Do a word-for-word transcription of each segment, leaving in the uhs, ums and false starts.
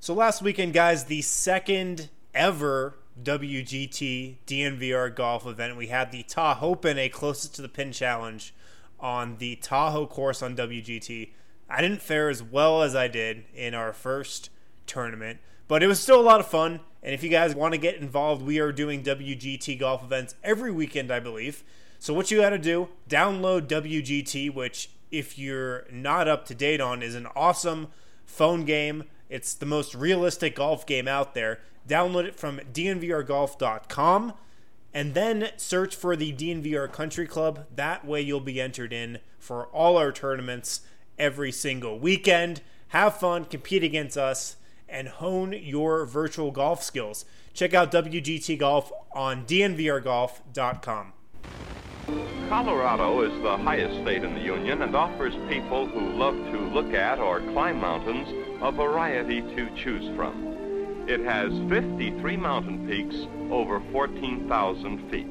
So last weekend, guys, the second ever W G T D N V R golf event. We had the Tahoe-Pin closest to the pin challenge on the Tahoe course on W G T. I didn't fare as well as I did in our first tournament, but it was still a lot of fun. And if you guys want to get involved, we are doing W G T golf events every weekend, I believe. So what you got to do, download W G T, which if you're not up to date on, is an awesome phone game. It's the most realistic golf game out there. Download it from D N V R golf dot com and then search for the D N V R Country Club. That way you'll be entered in for all our tournaments every single weekend. Have fun, compete against us, and hone your virtual golf skills. Check out W G T Golf on D N V R golf dot com. Colorado is the highest state in the Union and offers people who love to look at or climb mountains a variety to choose from. It has fifty-three mountain peaks over fourteen thousand feet.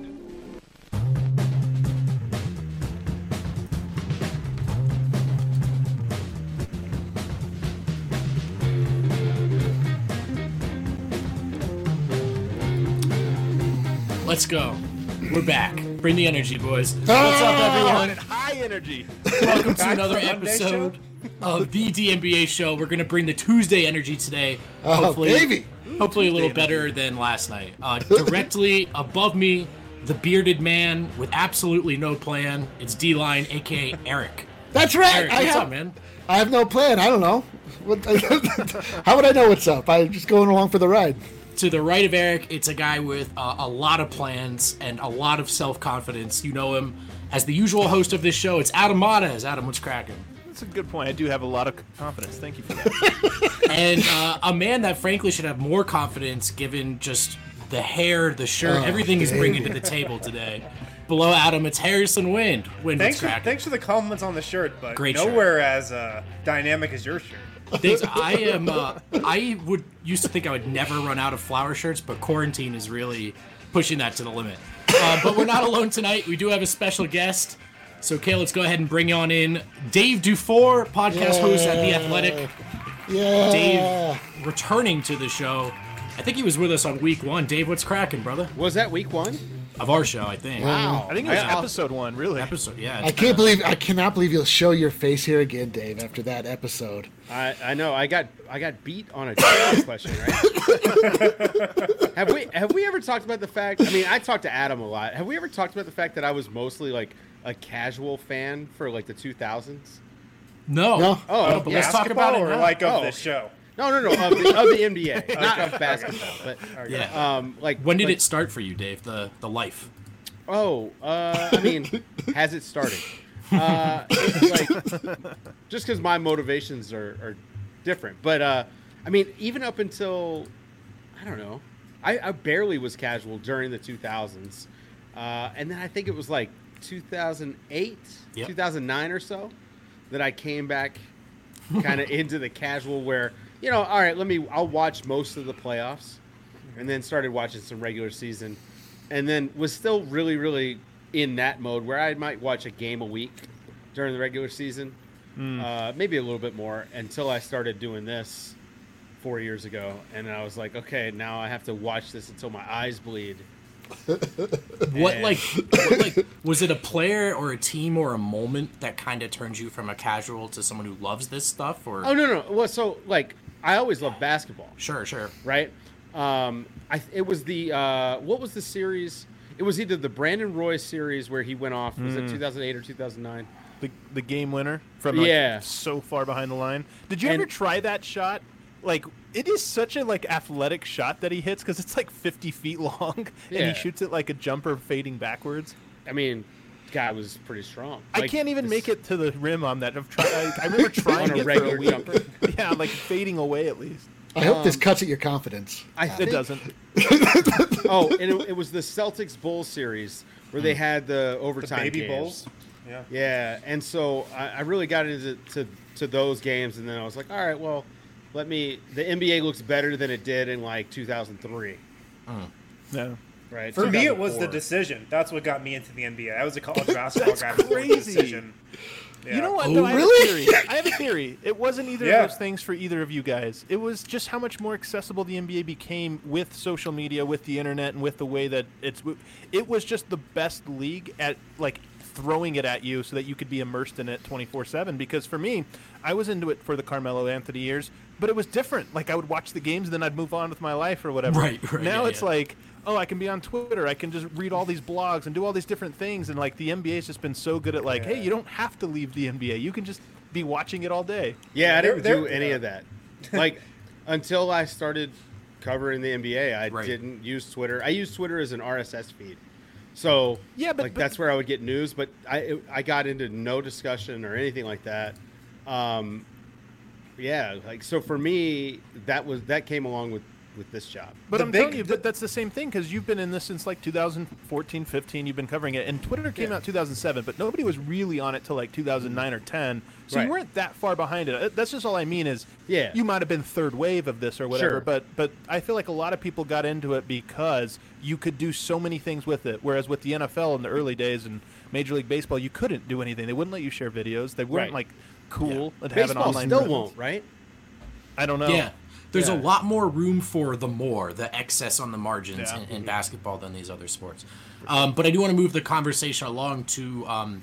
Let's go. We're back. Bring the energy, boys. What's up, everyone? High energy. Welcome to another episode of the D N B A show. We're going to bring the Tuesday energy today. Oh, hopefully, baby. Hopefully a little better than last night. Uh, directly above me, the bearded man with absolutely no plan. It's D-Line, a k a. Eric. That's right. Eric, I what's have, up, man? I have no plan. I don't know. What, how would I know what's up? I'm just going along for the ride. To the right of Eric, it's a guy with uh, a lot of plans and a lot of self-confidence. You know him as the usual host of this show. It's Adam Matas. Adam, what's cracking? That's a good point. I do have a lot of confidence. Thank you for that. And uh, a man that frankly should have more confidence given just the hair, the shirt, Oh, everything he's bringing to the table today. Below Adam, it's Harrison Wind. Wind, Thanks what's for, cracking? thanks for the compliments on the shirt, but Great shirt. nowhere as uh, dynamic as your shirt. Thanks. I am. Uh, I would used to think I would never run out of flower shirts, but quarantine is really pushing that to the limit. Uh, but we're not alone tonight. We do have a special guest. So, okay, let's go ahead and bring on in Dave Dufour, podcast Yeah. host at The Athletic. Yeah. Dave returning to the show. I think he was with us on week one. Dave, what's cracking, brother? Was that week one? Of our show, I think. Wow. I think it was I- episode one, really. Episode, yeah. I can't believe I cannot believe you'll show your face here again, Dave, after that episode. I, I know. I got I got beat on a trivia question, right? have we have we ever talked about the fact? I mean, I talked to Adam a lot. Have we ever talked about the fact that I was mostly like a casual fan for like the two thousands? No. No. Oh, but yeah. let's talk about it or now. like of Oh. this show. No, no, no. Of the, of the N B A, not of basketball. But Yeah. um, like When did like, it start for you, Dave? The the life. Oh, uh, I mean, has it started? Uh, it's like, just because my motivations are, are different. But, uh, I mean, even up until, I don't know, I, I barely was casual during the two thousands. Uh, and then I think it was like two thousand eight, Yep. two thousand nine or so that I came back kind of into the casual where, you know, all right, let me, I'll watch most of the playoffs and then started watching some regular season. And then was still really, really in that mode where I might watch a game a week during the regular season, mm. uh, maybe a little bit more, until I started doing this four years ago. And I was like, okay, now I have to watch this until my eyes bleed. What And- like, what, like was it a player or a team or a moment that kind of turns you from a casual to someone who loves this stuff? Or Oh, no, no. Well, so, like, I always loved basketball. sure, sure. Right? Um, I it was the uh, what was the series? It was either the Brandon Roy series where he went off. Was it two thousand eight or two thousand nine? The, the game winner from like, Yeah. so far behind the line. Did you And- ever try that shot? Like, it is such a like athletic shot that he hits because it's like fifty feet long, and Yeah. he shoots it like a jumper fading backwards. I mean, guy was pretty strong. I Like, can't even this- make it to the rim on that. I've tried, I, I remember trying On a it regular for a week. jumper? Yeah, like fading away at least. I hope Um, this cuts at your confidence. I It think, doesn't. Oh, and it, it was the Celtics Bulls series where they had the The overtime baby games. Bulls. Yeah. Yeah, and so I, I really got into to, to those games, and then I was like, all right, well, let me. The N B A looks better than it did in like two thousand three, No. right? For me, it was the two thousand four. decision. That's what got me into the N B A. I was a college basketball That's guy before the crazy. decision. You know what? Oh, No, I have really? a theory. I have a theory. It wasn't either Yeah. of those things for either of you guys. It was just how much more accessible the N B A became with social media, with the internet, and with the way that it's. It was just the best league at like throwing it at you so that you could be immersed in it twenty-four seven. Because for me, I was into it for the Carmelo Anthony years, but it was different. Like I would watch the games, and then I'd move on with my life or whatever. Right, right, Now yeah, it's yeah. like, oh, I can be on Twitter. I can just read all these blogs and do all these different things. And like the N B A's just been so good at like, Yeah. hey, you don't have to leave the N B A. You can just be watching it all day. Yeah, I They're- didn't they're- do any of that. Like until I started covering the N B A, I Right. didn't use Twitter. I used Twitter as an R S S feed. So Yeah, but- like but- that's where I would get news. But I it, I got into no discussion or anything like that. Um, yeah, like so for me, that was that came along with with this job. But The I'm big- telling you, the- but that's the same thing because you've been in this since like two thousand fourteen, fifteen. You've been covering it, and Twitter came Yeah. out two thousand seven, but nobody was really on it till like two thousand nine or ten. So Right. you weren't that far behind it. Uh, That's just all I mean is, Yeah. you might have been third wave of this or whatever. Sure. But but I feel like a lot of people got into it because you could do so many things with it. Whereas with the N F L in the early days and Major League Baseball, you couldn't do anything. They wouldn't let you share videos. They weren't Right. like cool and have an Baseball online. still presence. won't, right? I don't know. Yeah. There's Yeah. a lot more room for the more, the excess on the margins Yeah. in, in basketball than these other sports. Um, but I do want to move the conversation along to um,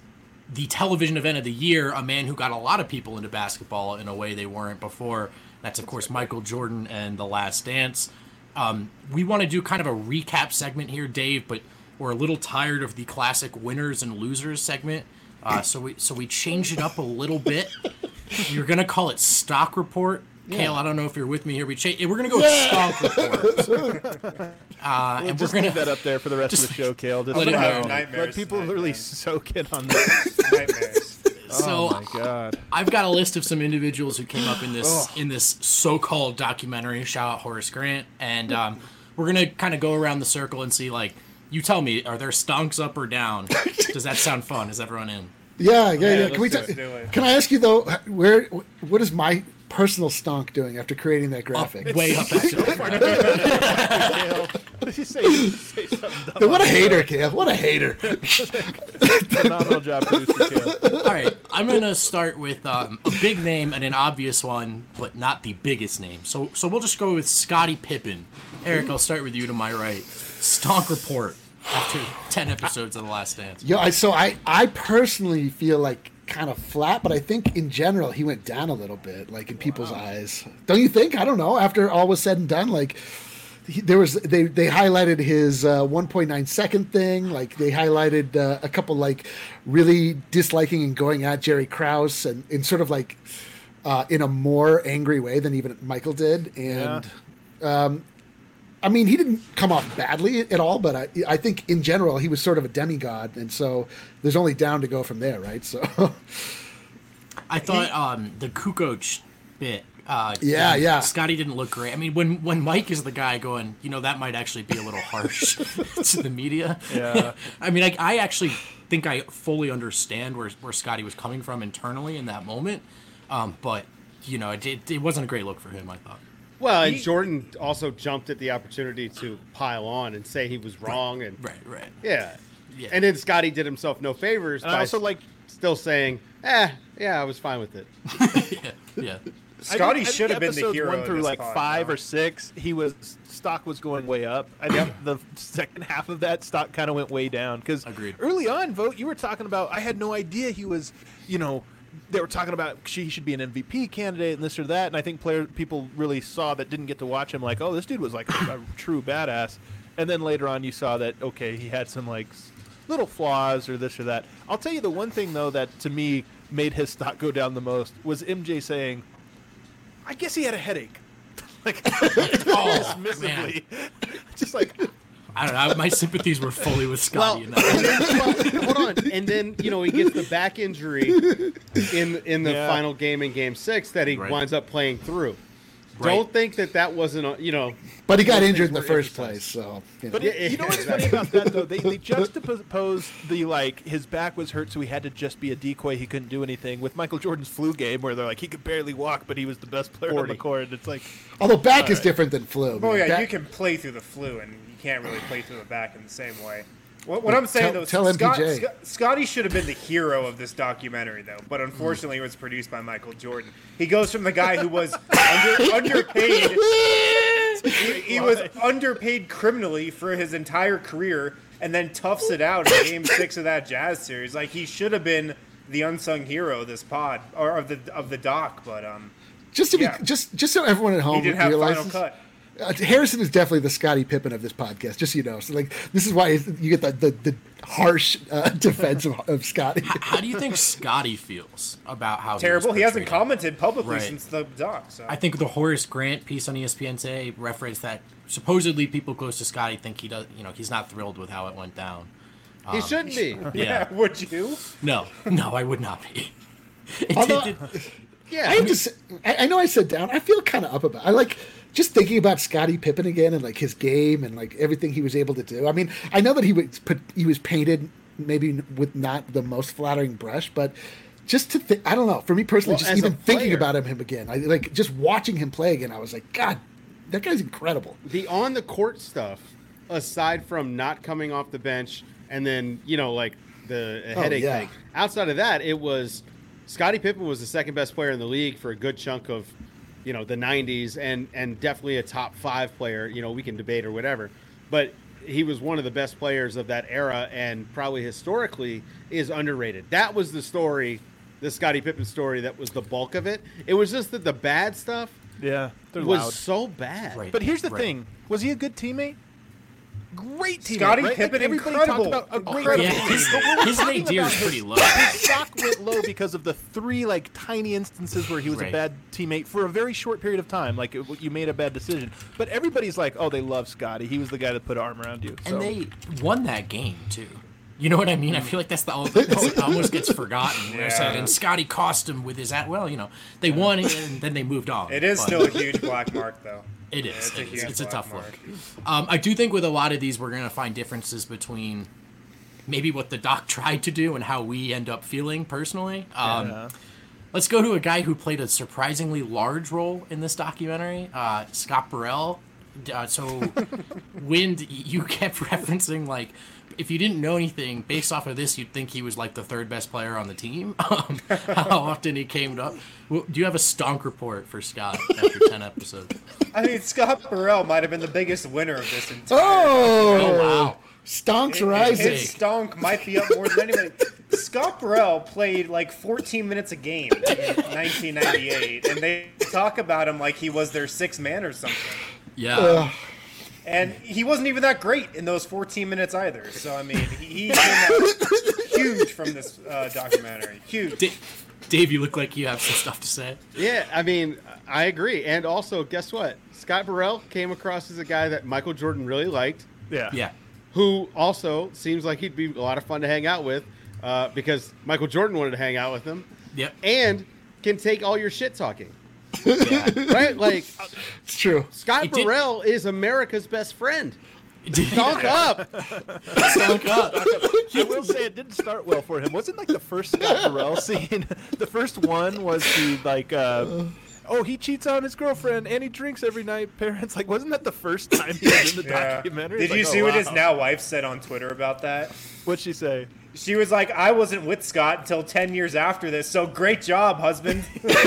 the television event of the year, a man who got a lot of people into basketball in a way they weren't before. That's, of course, Michael Jordan and The Last Dance. Um, we want to do kind of a recap segment here, Dave, but we're a little tired of the classic winners and losers segment. Uh, so we so we changed it up a little bit. You're going to call it Stock Report. Kale, I don't know if you're with me here. We cha- we're gonna go with Stock Report, uh, and we're Just gonna leave that up there for the rest of the show, Kale. Just let it let, go. Nightmares let people tonight, really man. soak in on this. Nightmares. So oh my god! I've got a list of some individuals who came up in this in this so-called documentary. Shout out Horace Grant, and um, we're gonna kind of go around the circle and see. Like, you tell me, are there stonks up or down? Does that sound fun? Is everyone in? Yeah, yeah, yeah. let's Can we? do ta- it. Do it. Can I ask you though? Where? What is my personal stonk doing after creating that Up, graphic? way up. Actually. Kale, what did you say? You say something dumb. What a hater, Kale! What a hater! Phenomenal job, producer Kale. All right, I'm gonna start with um, a big name and an obvious one, but not the biggest name. So, so we'll just go with Scottie Pippen. Eric, I'll start with you to my right. Stonk Report after ten episodes of The Last Dance. Yo, I so I I personally feel like kind of flat, but I think in general he went down a little bit, like in people's eyes. Don't you think? I don't know. After all was said and done, like. He, there was they they highlighted his uh, one point nine second thing, like they highlighted uh, a couple like really disliking and going at Jerry Krause and in sort of like uh, in a more angry way than even Michael did, and um, I mean he didn't come off badly at all, but I I think in general he was sort of a demigod, and so there's only down to go from there, right? So I thought um, the Kukoc bit. Uh, Yeah, yeah. Scotty didn't look great. I mean, when when Mike is the guy going, you know, that might actually be a little harsh to the media. Yeah. I mean, I, I actually think I fully understand where where Scotty was coming from internally in that moment, um, but you know, it, it it wasn't a great look for him. I thought. Well, and Jordan also jumped at the opportunity to pile on and say he was wrong, and Right, right. yeah, Yeah. and then Scotty did himself no favors And by I also like. still saying, "Eh, yeah, I was fine with it." yeah, yeah. Scotty I think- I should think have been the episodes hero. One of through this like pod, five though. or six, he was stock was going way up. I think the second half of that stock kind of went way down because Agreed. early on, vote you were talking about. I had no idea he was, you know, they were talking about he should be an M V P candidate and this or that. And I think player people really saw that didn't get to watch him like, oh, this dude was like a, a true badass. And then later on, you saw that okay, he had some like s- little flaws or this or that. I'll tell you the one thing though that to me made his stock go down the most was M J saying, I guess he had a headache. Like, Oh, dismissively. Just like, I don't know. My sympathies were fully with Scotty. in that. and then, well, hold on, and then you know he gets the back injury in in the Yeah. final game in Game Six that he Right. winds up playing through. Right. Don't think that that wasn't a, you know. but he got those injured things in the were first emphasized. place, so you know. but Yeah, it, you know yeah, what's funny about that though? They they juxtaposed the like his back was hurt, so he had to just be a decoy. He couldn't do anything. With Michael Jordan's flu game, where they're like he could barely walk, but he was the best player on forty. the court. It's like, Although back is Alright. different than flu. Oh man. yeah, Back- you can play through the flu, and you can't really play through the back in the same way. What, what I'm saying Tell- though, tell Scott, M P J. Scott, Scotty should have been the hero of this documentary, though. But unfortunately, it was produced by Michael Jordan. He goes from the guy who was under, underpaid. He, he was underpaid criminally for his entire career, and then toughs it out in Game Six of that Jazz series. Like he should have been the unsung hero of this pod or of the of the doc. But um, Just to be, Yeah. just just so everyone at he home didn't have realizes, final cut. Uh, Harrison is definitely the Scottie Pippen of this podcast, just so you know. So, like, this is why you get the the, the harsh uh, defense of, of Scottie. How do you think Scotty feels about how Terrible. He, He was hasn't portrayed? commented publicly Right. since the doc. So. I think the Horace Grant piece on E S P N today referenced that supposedly people close to Scotty think he does. You know, he's not thrilled with how it went down. He shouldn't be. yeah. Yeah. Would you? No, no, I would not be. It Although- did- Yeah. I have to say, I, I know I said down. I feel kind of up about. I like just thinking about Scottie Pippen again and like his game and like everything he was able to do. I mean, I know that he was put he was painted maybe with not the most flattering brush, but just to think, I don't know. For me personally, Well, just as a even thinking player- about him, him again, I like just watching him play again. I was like, God, that guy's incredible. The on the court stuff, aside from not coming off the bench and then, you know, like the Oh, headache yeah. thing, outside of that, it was Scottie Pippen was the second best player in the league for a good chunk of, you know, the nineties and, and definitely a top five player. You know, we can debate or whatever, but he was one of the best players of that era and probably historically is underrated. That was the story, the Scottie Pippen story that was the bulk of it. It was just that the bad stuff Yeah, they're was loud. so bad. Right. But here's the Right. thing: was he a good teammate? Great teammate. Scottie right? Pippen, like everybody incredible. talked about a great Incredible. yeah, teammate. his, But we're his talking nadir about is his- pretty low. His stock went low because of the three like tiny instances where he was Right. a bad teammate for a very short period of time. Like it, you made a bad decision, but everybody's like, "Oh, they love Scotty. He was the guy that put an arm around you." So. And they won that game too. You know what I mean? I feel like that's the that almost gets forgotten. Where I said, Yeah. and Scotty cost him with his at. Well, you know, they won it and then they moved on. It is But still a huge black mark, though. It is. It's a It is. huge It's a black tough mark. look. Um, I do think with a lot of these, we're going to find differences between maybe what the doc tried to do and how we end up feeling personally. Um, Yeah. Let's go to a guy who played a surprisingly large role in this documentary, uh, Scott Burrell. Uh, so, Wind, you kept referencing, like, if you didn't know anything, based off of this, you'd think he was, like, the third best player on the team. Um, how often he came up. Well, do you have a stonk report for Scott after ten episodes? I mean, Scott Burrell might have been the biggest winner of this entire. Oh, Oh, wow. Stonks His rising. stonk might be up more than anybody. Scott Burrell played like fourteen minutes a game in nineteen ninety-eight, and they talk about him like he was their sixth man or something. Yeah. And he wasn't even that great in those fourteen minutes either. So, I mean, he, he came out huge from this uh, documentary. Huge. Da- Dave, you look like you have some stuff to say. Yeah, I mean, I agree. And also, guess what? Scott Burrell came across as a guy that Michael Jordan really liked, Yeah. Yeah. who also seems like he'd be a lot of fun to hang out with uh, because Michael Jordan wanted to hang out with him Yep. and can take all your shit talking. Yeah. Right? Like, It's true. Scott He did- Burrell is America's best friend. Did he Talk up. stonk up? I will say it didn't start well for him. Wasn't like the first Scott Burrell scene. The first one was the like, uh, oh, he cheats on his girlfriend and he drinks every night. Parents like, wasn't that the first time he was in the Yeah. documentary? Did It's you like, see oh, what his wow. now wife said on Twitter about that? What'd she say? She was like, I wasn't with Scott until ten years after this, so great job, husband.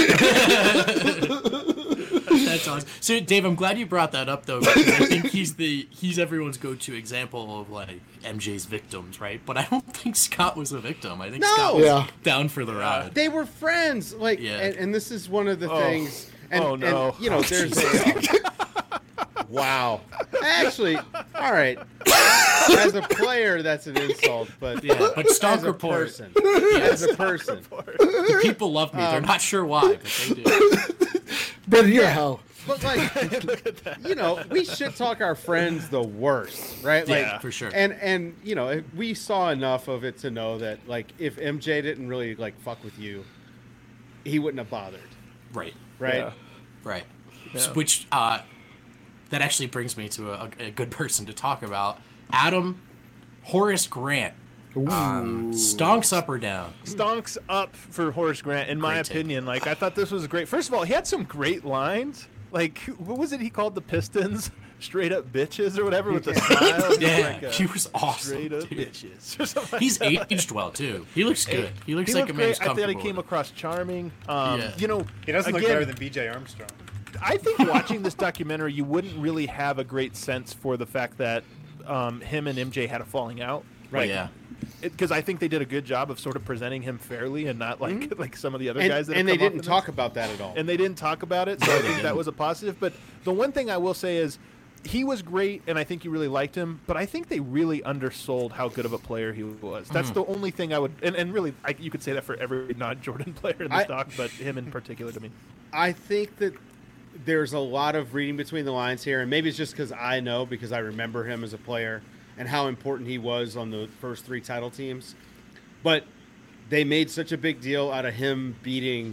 That's awesome. So, Dave, I'm glad you brought that up, though, because I think he's the he's everyone's go-to example of like M J's victims, right? But I don't think Scott was a victim. I think No! Scott was Yeah. down for the ride. They were friends. Like, Yeah. and, and this is one of the Oh. things. And, Oh, no. and, you know, there's a. Wow. Actually, all right. As a player, that's an insult, but Yeah, but as stonk a report. person, as a person, The people love me. Um, They're not sure why, but they do. Brendan, you're a hell. but like, you know, we shit talk our friends the worst, right? Like, Yeah, for sure. And and you know, we saw enough of it to know that like, if M J didn't really like fuck with you, he wouldn't have bothered, Right, right? Yeah. right. Yeah. Which uh, that actually brings me to a, a good person to talk about. Adam Horace Grant. Um, stonks up or down? Stonks up for Horace Grant, in my Great take. opinion. Like, I thought this was great. First of all, he had some great lines. Like, what was it he called the Pistons? straight up bitches or whatever with the smile. Yeah, like a, he was awesome. Straight up dude. bitches. Or something like He's that. aged well too. He looks good. He looks He like looked a man who's great. I thought he comfortable came with it. across charming. Um, Yeah. You know, He doesn't look again, better than B J Armstrong. I think watching this documentary, you wouldn't really have a great sense for the fact that um, him and M J had a falling out. Right. Yeah. Because I think they did a good job of sort of presenting him fairly and not like Mm-hmm. like some of the other And, guys that and have they come up didn't in talk this. about that at all. And they didn't talk about it, so I think that was a positive. But the one thing I will say is he was great, and I think you really liked him. But I think they really undersold how good of a player he was. That's the only thing I would, and, and really, I, you could say that for every non-Jordan player in this I- doc, but him in particular to me. I think that there's a lot of reading between the lines here, and maybe it's just because I know, because I remember him as a player and how important he was on the first three title teams. But they made such a big deal out of him beating,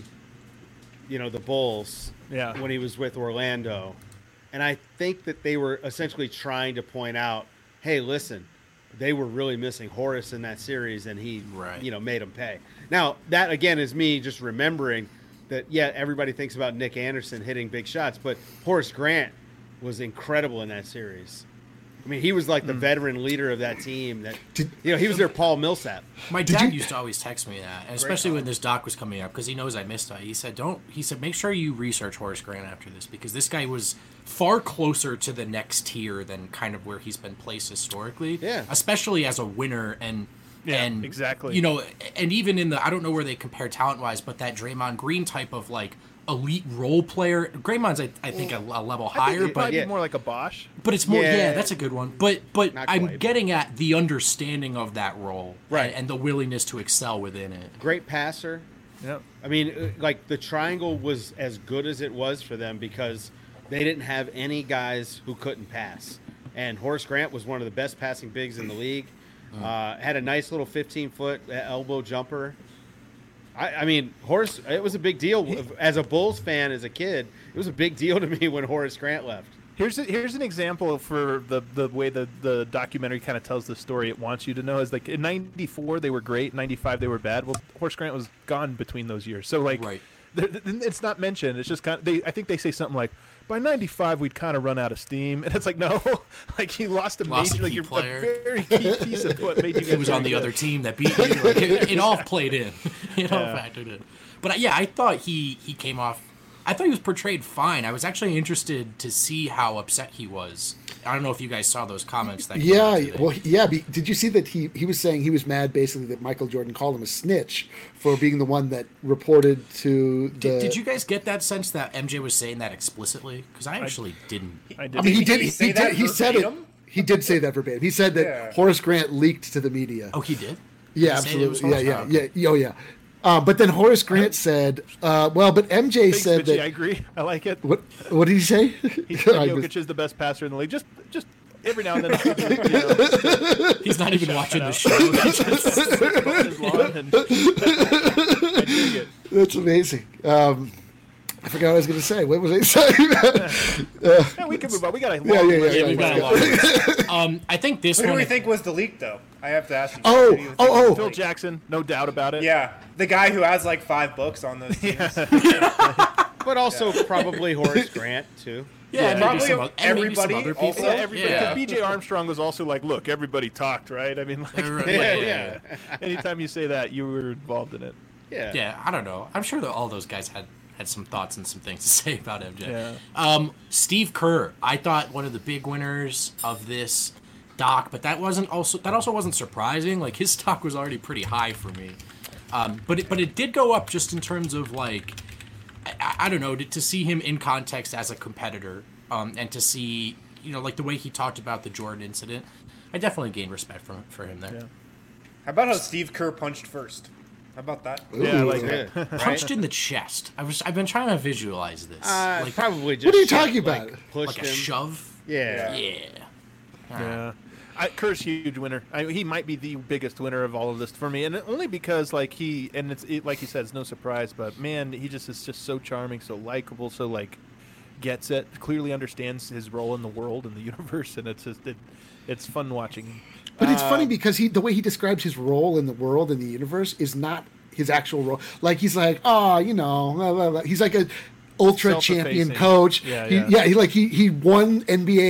you know, the Bulls Yeah. when he was with Orlando. And I think that they were essentially trying to point out, hey, listen, they were really missing Horace in that series, and he, Right. you know, made them pay. Now, that, again, is me just remembering that, yeah, everybody thinks about Nick Anderson hitting big shots, but Horace Grant was incredible in that series. I mean, he was like the veteran leader of that team. That Did- you know, he was their Paul Millsap. My Did dad you- used to always text me that, and especially when this doc was coming up, because he knows I missed it. He said, "Don't." He said, "Make sure you research Horace Grant after this, because this guy was far closer to the next tier than kind of where he's been placed historically. Yeah. especially as a winner and." Yeah, and exactly. You know, and even in the I don't know where they compare talent wise, but that Draymond Green type of like elite role player. Draymond's I, I think a, a level I think higher, it but might yeah. be more like a Bosch. but it's more, yeah. Yeah. that's a good one. But but Not I'm quite, but- getting at the understanding of that role, Right. and, and the willingness to excel within it. Great passer. Yeah. I mean, uh, like the triangle was as good as it was for them because they didn't have any guys who couldn't pass. And Horace Grant was one of the best passing bigs in the league. Uh, had a nice little fifteen foot elbow jumper. I, I mean, Horace, it was a big deal. As a Bulls fan, as a kid, it was a big deal to me when Horace Grant left. Here's a, here's an example for the, the way the, the documentary kind of tells the story it wants you to know. Is like in ninety-four they were great, ninety-five they were bad. Well, Horace Grant was gone between those years, so like Right. there- it's not mentioned. It's just kind of, they I think they say something like by ninety-five we'd kind of run out of steam, and it's like no, like he lost a Lost major a like key you're player. a very key piece of what made you guys He was very on the good. other team that beat you. Like, it, it all played in. It all Yeah. factored in. But uh, yeah, I thought he he came off. I thought he was portrayed fine. I was actually interested to see how upset he was. I don't know if you guys saw those comments. That came Yeah, out today. well, yeah. Be, did you see that he he was saying he was mad basically that Michael Jordan called him a snitch for being the one that reported to the. Did, did you guys get that sense that M J was saying that explicitly? Because I actually didn't. I did. I mean, he Did did. he He, say he that did. He said it. verbatim? He did say that verbatim. He said that Yeah. Horace Grant leaked to the media. Oh, he did. yeah, Did he say it was absolutely. Yeah, Horace? yeah, Oh, yeah, Oh, yeah. Uh, but then Horace Grant said, uh, "Well, but M J Thanks, said Mitchie, that." I agree. I like it. What What did he say? He said I Jokic missed- is the best passer in the league. Just just every now and then. you know, He's not even watching the out. show. on his lawn and- I dig it. That's amazing. Um, I forgot what I was going to say. What was I saying? Yeah, we can move on. We got a Yeah, long yeah, yeah, list. Yeah, we've got a lot. Of this. Um, I think this Who do one. we think was the leak, though? I have to ask you. Oh, Who do you think oh, was oh. the Phil leak? Jackson, no doubt about it. Yeah, the guy who has like five books on those teams. But also probably Horace Grant, too. yeah, maybe probably some, oth- and maybe some everybody other people. also- Yeah, everybody. Yeah. Because B J Armstrong was also like, look, everybody talked, right? I mean, like, Right, Yeah, yeah. yeah. anytime you say that, you were involved in it. Yeah. Yeah, I don't know. I'm sure that all those guys had, had some thoughts and some things to say about M J. Yeah. Um, Steve Kerr, I thought one of the big winners of this doc, but that wasn't also that also wasn't surprising. Like his stock was already pretty high for me, um, but it, but it did go up just in terms of like I, I don't know to, to see him in context as a competitor, um, and to see you know like the way he talked about the Jordan incident. I definitely gained respect for for him there. Yeah. How about how Steve Kerr punched first? How about that? Yeah, Ooh. like Yeah. Right? Punched in the chest. I was I've been trying to visualize this. Uh, like probably just What are you shit, talking like, about? pushed like a him. shove. Yeah. Yeah. Yeah. I, Kerr's huge winner. I, he might be the biggest winner of all of this for me, and only because like he and it's it, like you said, it's no surprise. But man, he just is just so charming, so likable, so like gets it, clearly understands his role in the world and the universe, and it's just it, it's fun watching him. But it's funny because he the way he describes his role in the world and the universe is not his actual role. Like he's like, oh, you know, blah, blah, blah. He's like a ultra champion Self-effacing. coach. Yeah, he, yeah. yeah. He like he he won N B A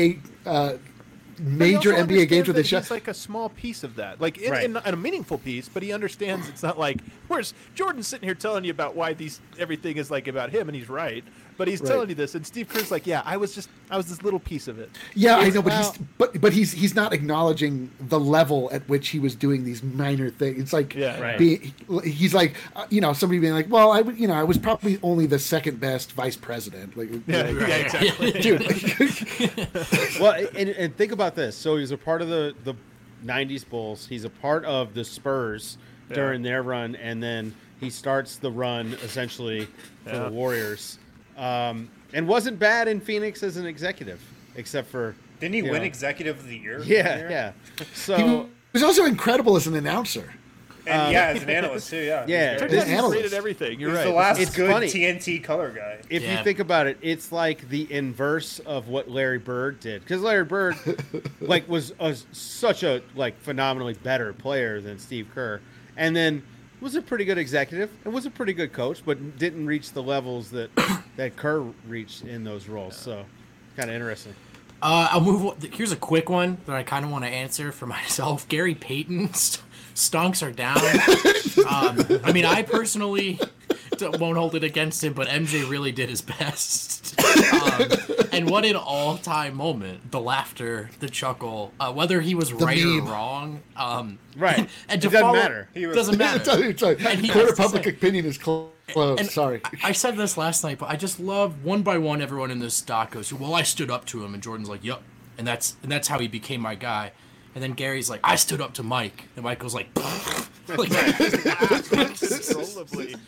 uh, But he major also N B A games understands where they that show. he's like a small piece of that, like in, Right. in, in a meaningful piece. But he understands it's not like where's Jordan sitting here telling you about why these everything is like about him, and he's right. But he's Right. telling you this, and Steve Kerr's like, yeah, I was just I was this little piece of it. Yeah, I It's know, but about- he's but but he's he's not acknowledging the level at which he was doing these minor things. It's like Yeah. Right. be, he's like uh, you know somebody being like, well, I w- you know I was probably only the second best vice president. Like, Yeah, like, yeah, exactly. dude, Well, and, and think about this. So he's a part of the the nineties Bulls. He's a part of the Spurs during their run, and then he starts the run essentially for Yeah. the Warriors. Um, and wasn't bad in Phoenix as an executive, except for Didn't he you win know- Executive of the Year? Yeah, that year? yeah. he So was also incredible as an announcer. And yeah, as an analyst too. Yeah. Yeah. He's, Turns very- This out he's analyst. great at everything. You're he's right. the last It's good funny. T N T color guy. if Yeah. you think about it, it's like the inverse of what Larry Bird did, because Larry Bird, like, was a, such a like phenomenally better player than Steve Kerr, and then was a pretty good executive and was a pretty good coach, but didn't reach the levels that that Kerr reached in those roles. So, kind of interesting. Uh, I'll move. on- Here's a quick one that I kind of want to answer for myself. Gary Payton, st- stonks are down. um, I mean, I personally d- won't hold it against him, but M J really did his best. um, and what an all-time moment! The laughter, the chuckle, uh, whether he was right meme. or wrong. Um, Right. and It to doesn't follow- matter. He was- Doesn't matter. Sorry, sorry. And he Court has of to public say- opinion is clo- closed. And Sorry. I, I said this last night, but I just love one by one. Everyone in this doc goes, "Well, I stood up to him," and Jordan's like, "Yup," and that's and that's how he became my guy. And then Gary's like, "I stood up to Mike," and Michael's like, like Controllably.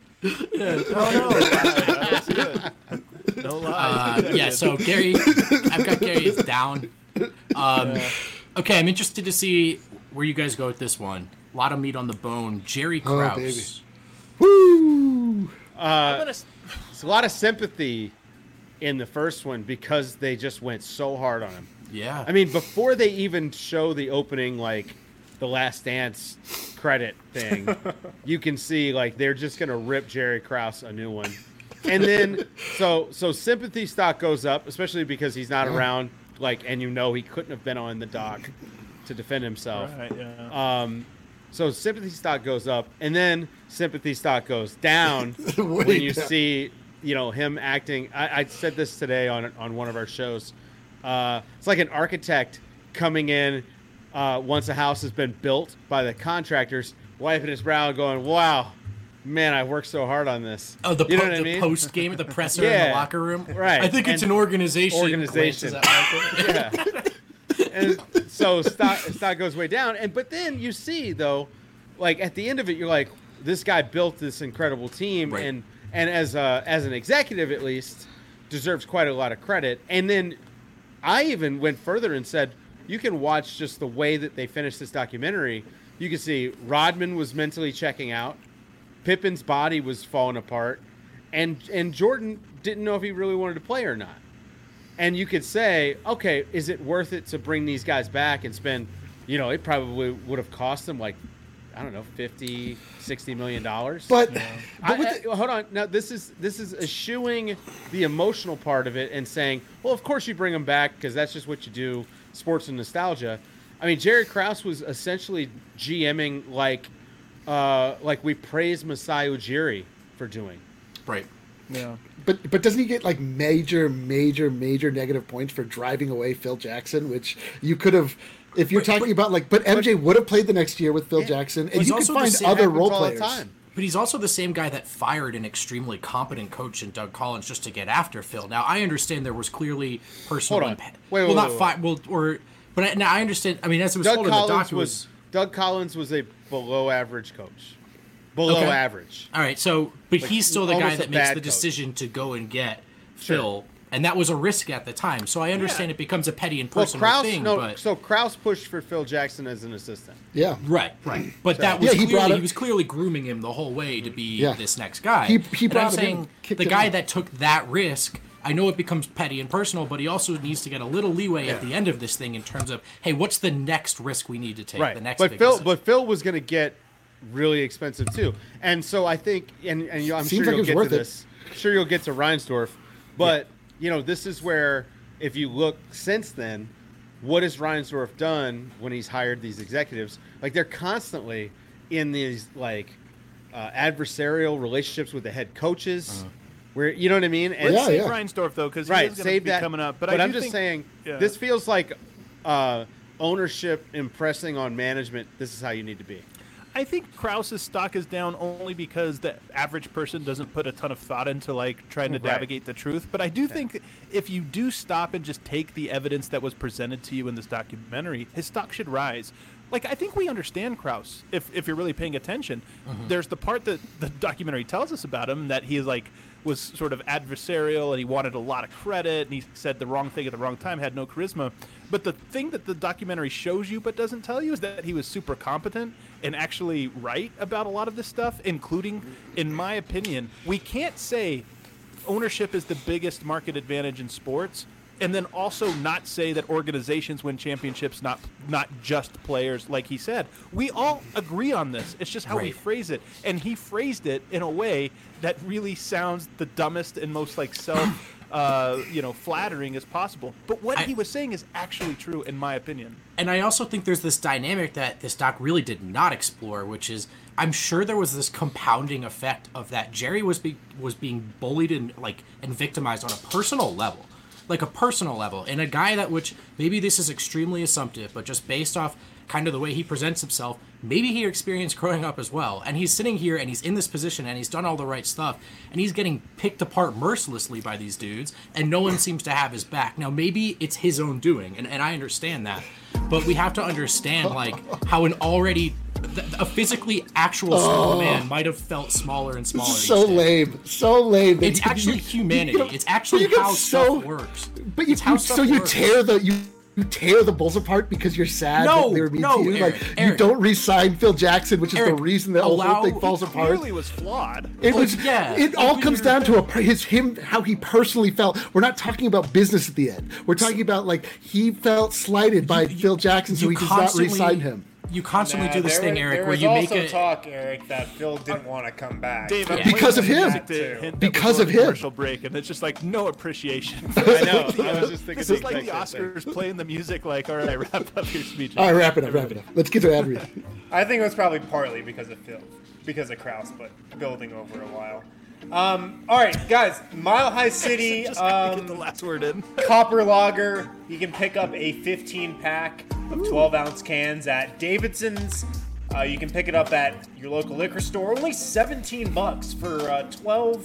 No lie. uh, yeah. So Gary, I've got Gary is down. Um, okay, I'm interested to see where you guys go with this one. A lot of meat on the bone. Jerry Oh, Krause. baby. Woo! I'm gonna s- It's a lot of sympathy in the first one because they just went so hard on him. Yeah. I mean, before they even show the opening, like the Last Dance credit thing, you can see like they're just gonna rip Jerry Krause a new one, and then so so sympathy stock goes up, especially because he's not around. Like, and you know he couldn't have been on the dock to defend himself. Right, yeah. Um, so sympathy stock goes up, and then sympathy stock goes down Way when you down. see, you know, him acting. I, I said this today on on one of our shows. Uh, it's like an architect coming in uh, once a house has been built by the contractors, wiping his brow and going, "Wow, man, I worked so hard on this." Oh, the, you know po- what I the mean? post game at the presser in Yeah, the locker room. right. I think it's And an organization. organization. Glances at Michael. Yeah. And so stock stock goes way down, and but then you see though, like at the end of it, you're like, this guy built this incredible team, Right. and and as a, as an executive at least, deserves quite a lot of credit. And then I even went further and said, you can watch just the way that they finished this documentary. You can see Rodman was mentally checking out, Pippen's body was falling apart, and and Jordan didn't know if he really wanted to play or not. And you could say, okay, is it worth it to bring these guys back and spend, you know, it probably would have cost them like, I don't know, fifty, sixty million dollars. But, I, but with the, I- hold on. Now this is this is eschewing the emotional part of it and saying, well, of course you bring them back because that's just what you do, sports and nostalgia. I mean, Jerry Krause was essentially GMing like uh, like we praise Masai Ujiri for doing. Right. Yeah. but but doesn't he get like major, major, major negative points for driving away Phil Jackson, which you could have, if you're But- talking about like, but M J would have played the next year with Phil Jackson, and He's you could also the find same- other Happens role all the players. time. But he's also the same guy that fired an extremely competent coach in Doug Collins just to get after Phil. Now I understand there was clearly personal Hold on. impa- Wait, wait, well, not wait, fi- well, or but I, now I understand. I mean, as it was Doug told in the doc, Collins it was, was Doug Collins was a below average coach. Below Okay. average. all right. So, but Like, he's still the guy almost a that makes bad the coach. decision to go and get Phil, and that was a risk at the time. So I understand Yeah. it becomes a petty and Well, personal Krause, thing. no, but so Krause pushed for Phil Jackson as an assistant. Yeah, right, right. But that was Yeah, he clearly, brought he it- was clearly grooming him the whole way to be Yeah. this next guy. He- he And brought I'm him in saying and kicked the him guy out. that took that risk. I know it becomes petty and personal, but he also needs to get a little leeway at the end of this thing in terms of, hey, what's the next risk we need to take? Right. The next but big Phil, decision. but Phil was going to get really expensive too, and so I think, and and you, I'm Seems sure like it you'll was get worth to it. this. Sure, you'll get to Reinsdorf, but you know, this is where if you look since then, what has Reinsdorf done when he's hired these executives? Like they're constantly in these like uh, adversarial relationships with the head coaches, uh-huh. where you know what I mean. And Let's yeah, save yeah. Reinsdorf though, because right, he's going to be that. coming up. But, but I I'm do just think, saying, yeah. this feels like uh, ownership impressing on management. This is how you need to be. I think Krause's stock is down only because the average person doesn't put a ton of thought into like trying to Right. navigate the truth. But I do think if you do stop and just take the evidence that was presented to you in this documentary, his stock should rise. Like, I think we understand Krause if if you're really paying attention. Mm-hmm. There's the part that the documentary tells us about him that he is like was sort of adversarial and he wanted a lot of credit and he said the wrong thing at the wrong time, had no charisma. But the thing that the documentary shows you but doesn't tell you is that he was super competent and actually right about a lot of this stuff, including, in my opinion, we can't say ownership is the biggest market advantage in sports and then also not say that organizations win championships, not not just players, like he said. We all agree on this. It's just how we Right. phrase it. And he phrased it in a way that really sounds the dumbest and most like self, uh, you know, flattering as possible. But what I- he was saying is actually true, in my opinion. And I also think there's this dynamic that this doc really did not explore, which is I'm sure there was this compounding effect of that Jerry was be, was being bullied and like and victimized on a personal level, like a personal level, and a guy that which maybe this is extremely assumptive, but just based off kind of the way he presents himself, maybe he experienced growing up as well, and he's sitting here and he's in this position and he's done all the right stuff and he's getting picked apart mercilessly by these dudes and no one seems to have his back. Now maybe it's his own doing, and, and I understand that, but we have to understand like how an already a physically actual small Oh. man might have felt smaller and smaller. So each day. lame, so lame. that It's you can- actually you- humanity. you get- It's actually you get how so- stuff works. But you, It's how you stuff so you works. tear the you. You tear the Bulls apart because you're sad No, that they were mean no, to you. Eric, like you Eric. don't re-sign Phil Jackson, which is Eric, the reason that the allow- whole thing falls apart. Clearly was flawed. It was, Like, yeah, It all if comes you're- down to a per- his him how he personally felt. We're not talking about business at the end. We're talking about like he felt slighted by Phil Jackson, so you he does not constantly- re-sign him. You constantly Nah, do this there thing, was- Eric, there where was you make also it. talk, Eric, that Phil didn't want to come back. Dave, I'm Yeah. waiting Because of for you him. to hint that Because we're of going to him. Commercial break, and it's just like no appreciation. I know. I was just thinking This the is like the exact same Oscars playing the music. Like, all right, wrap up your speech. All right, wrap it up, wrap it up. Let's get to ad read. I think it was probably partly because of Phil, because of Krause, but building over a while. Um, all right, guys, Mile High City Just gotta get the um, last word in. Copper Lager. You can pick up a fifteen pack of twelve ounce cans at Davidson's. Uh, you can pick it up at your local liquor store. Only seventeen bucks for uh, twelve.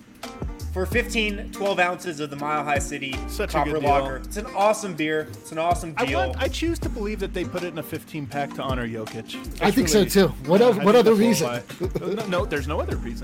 For fifteen, twelve ounces of the Mile High City Such a Copper good deal. Lager. It's an awesome beer. It's an awesome I deal. want. I choose to believe that they put it in a fifteen pack to honor Jokic. I think so Truly. too. What Yeah, else, I what think other that's reason? all why. no, no, there's no other reason.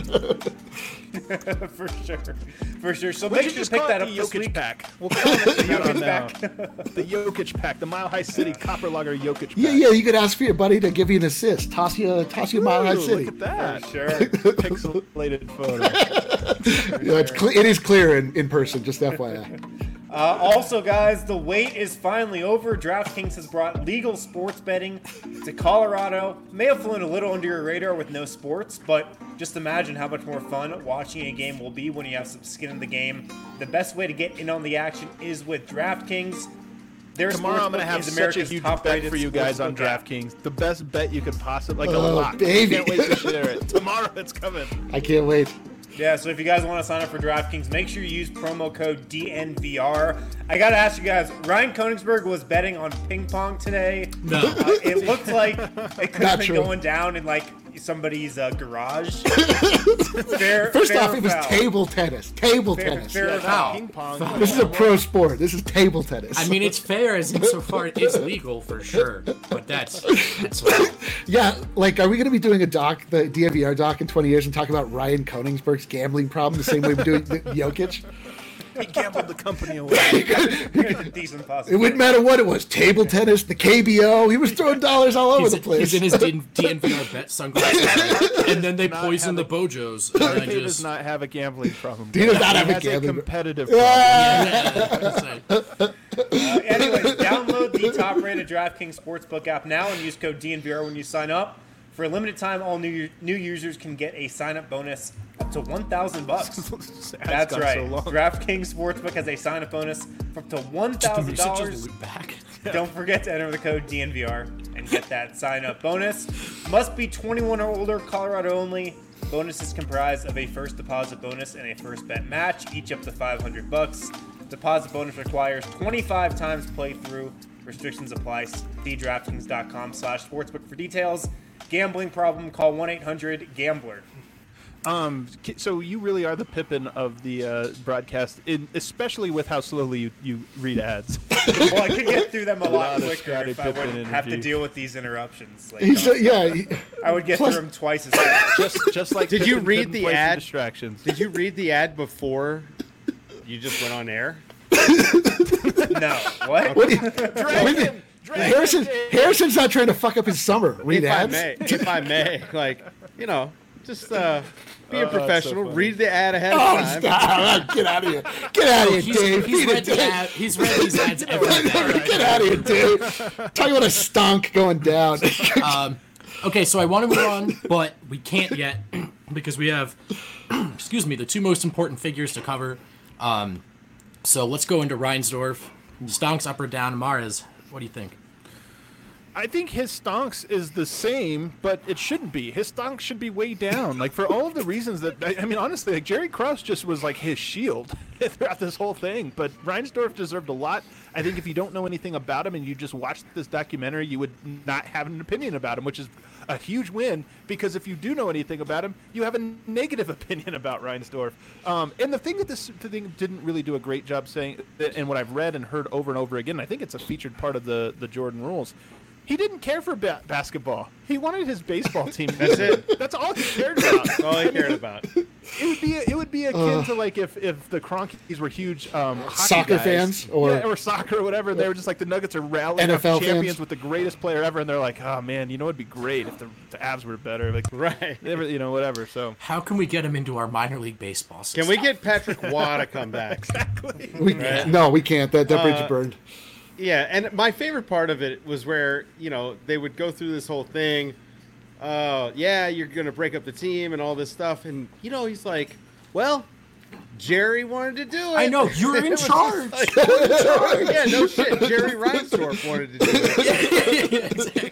For sure. For sure. So We make should sure to just pick call that it up the this Jokic week. pack. We'll call it the Jokic Jokic pack. pack. The Jokic pack. The Mile High City Copper Lager Jokic pack. Yeah, yeah. You could ask for your buddy to give you an assist. Toss you, toss you a Mile High Ooh, City. Look at that. For sure. Pixelated photo. Yeah, it's cl- it is clear in, in person. Just F Y I. Uh, also, guys, the wait is finally over. DraftKings has brought legal sports betting to Colorado. May have flown a little under your radar with no sports, but just imagine how much more fun watching a game will be when you have some skin in the game. The best way to get in on the action is with DraftKings. Their Tomorrow I'm sportsbook going to have is such a America's huge bet top-rated for you guys on sportsbook app. DraftKings. The best bet you could possibly, like a Oh, lock. baby. I can't wait to share it. Tomorrow it's coming. I can't wait. Yeah, so if you guys want to sign up for DraftKings, make sure you use promo code D N V R. I got to ask you guys, Ryan Koenigsberg was betting on ping pong today. No. Uh, it looked like it could Not have been true. going down in like somebody's uh, garage. fair, First fair off, it was foul. table tennis. Table Fair, tennis. fair foul. Ping pong. This is a pro sport. This is table tennis. I mean, it's fair as insofar it's legal for sure, but that's that's yeah, like, are we going to be doing a doc, the D N V R doc, in twenty years and talk about Ryan Koenigsberg's gambling problem the same way we're doing the Jokic? He gambled the company away. Decent It possibility. wouldn't matter what it was. Table tennis, the K B O. He was throwing dollars all over he's, the place. he's in his D N V R bet sunglasses, and then they Not poison the have Bojos. And I Dave does just, not have a gambling problem. He does not have a has gambling- competitive problem. yeah, yeah, Uh, anyways, download the top-rated DraftKings Sportsbook app now and use code D N V R when you sign up. For a limited time, all new new users can get a sign-up bonus up to one thousand bucks. That's gone right. so long. DraftKings Sportsbook has a sign-up bonus for up to one thousand dollars. back. Don't forget to enter the code D N V R and get that sign-up bonus. Must be twenty-one or older, Colorado only. Bonus is comprised of a first deposit bonus and a first bet match, each up to five hundred bucks. Deposit bonus requires twenty-five times playthrough. Restrictions apply. See DraftKings.com slash sportsbook for details. Gambling problem, call one eight hundred gambler. Um, so you really are the Pippin of the uh, broadcast, in, especially with how slowly you, you read ads. Well, I could get through them a lot lot of quicker Scottie if I Pippen wouldn't have to energy. deal with these interruptions. Like, He's, uh, yeah. He, I would get plus- through them twice as fast. just just like Did you Pippin read couldn't the play through ad? Distractions. Did you read the ad before you just went on air? No. What? what do you, Harrison, Harrison's not trying to fuck up his summer. Read if I ads. may, if I may, like you know, just uh, be a Oh, that's so professional. funny. Read the ad ahead of Oh, time. stop. Get out of here. Get out of here, He's, Dave. he's Beat read it, the Dave. ad, he's read these ads every day. Get out of here, Dave. Talk about a stunk going down. Um, okay, so I want to move on, but we can't yet because we have, excuse me, the two most important figures to cover. Um, so let's go into Reinsdorf. Stonks up or down? Mares, what do you think? I think his stonks is the same, but it shouldn't be. His stonks should be way down. Like, for all of the reasons that, I, I mean, honestly, like, Jerry Krause just was like his shield throughout this whole thing. But Reinsdorf deserved a lot. I think if you don't know anything about him and you just watched this documentary, you would not have an opinion about him, which is a huge win, because if you do know anything about him, you have a negative opinion about Reinsdorf. Um, and the thing that this thing didn't really do a great job saying, and what I've read and heard over and over again, I think it's a featured part of the, the Jordan rules, he didn't care for ba- basketball. He wanted his baseball team. That's it. That's all he cared about. That's all he cared about. It would be it would be akin to like if, if the Cronkies were huge um, hockey Soccer guys. fans, or- yeah, or soccer or whatever. They were just like the Nuggets are rallying N F L up champions fans. with the greatest player ever, and they're like, oh man, you know it'd be great if the, the Avs were better. Like Right. they were- you know whatever. So How can we get him into our minor league baseball system? Can we get Patrick Waugh to come back? We, No, we can't. That, that bridge Uh, is burned. Yeah, and my favorite part of it was where, you know, they would go through this whole thing. Oh, yeah, you're going to break up the team and all this stuff. And, you know, he's like, well, Jerry wanted to do it. I know, you're in It was just charge. like, you're in charge. Yeah, no shit. Jerry Reinsdorf wanted to do it.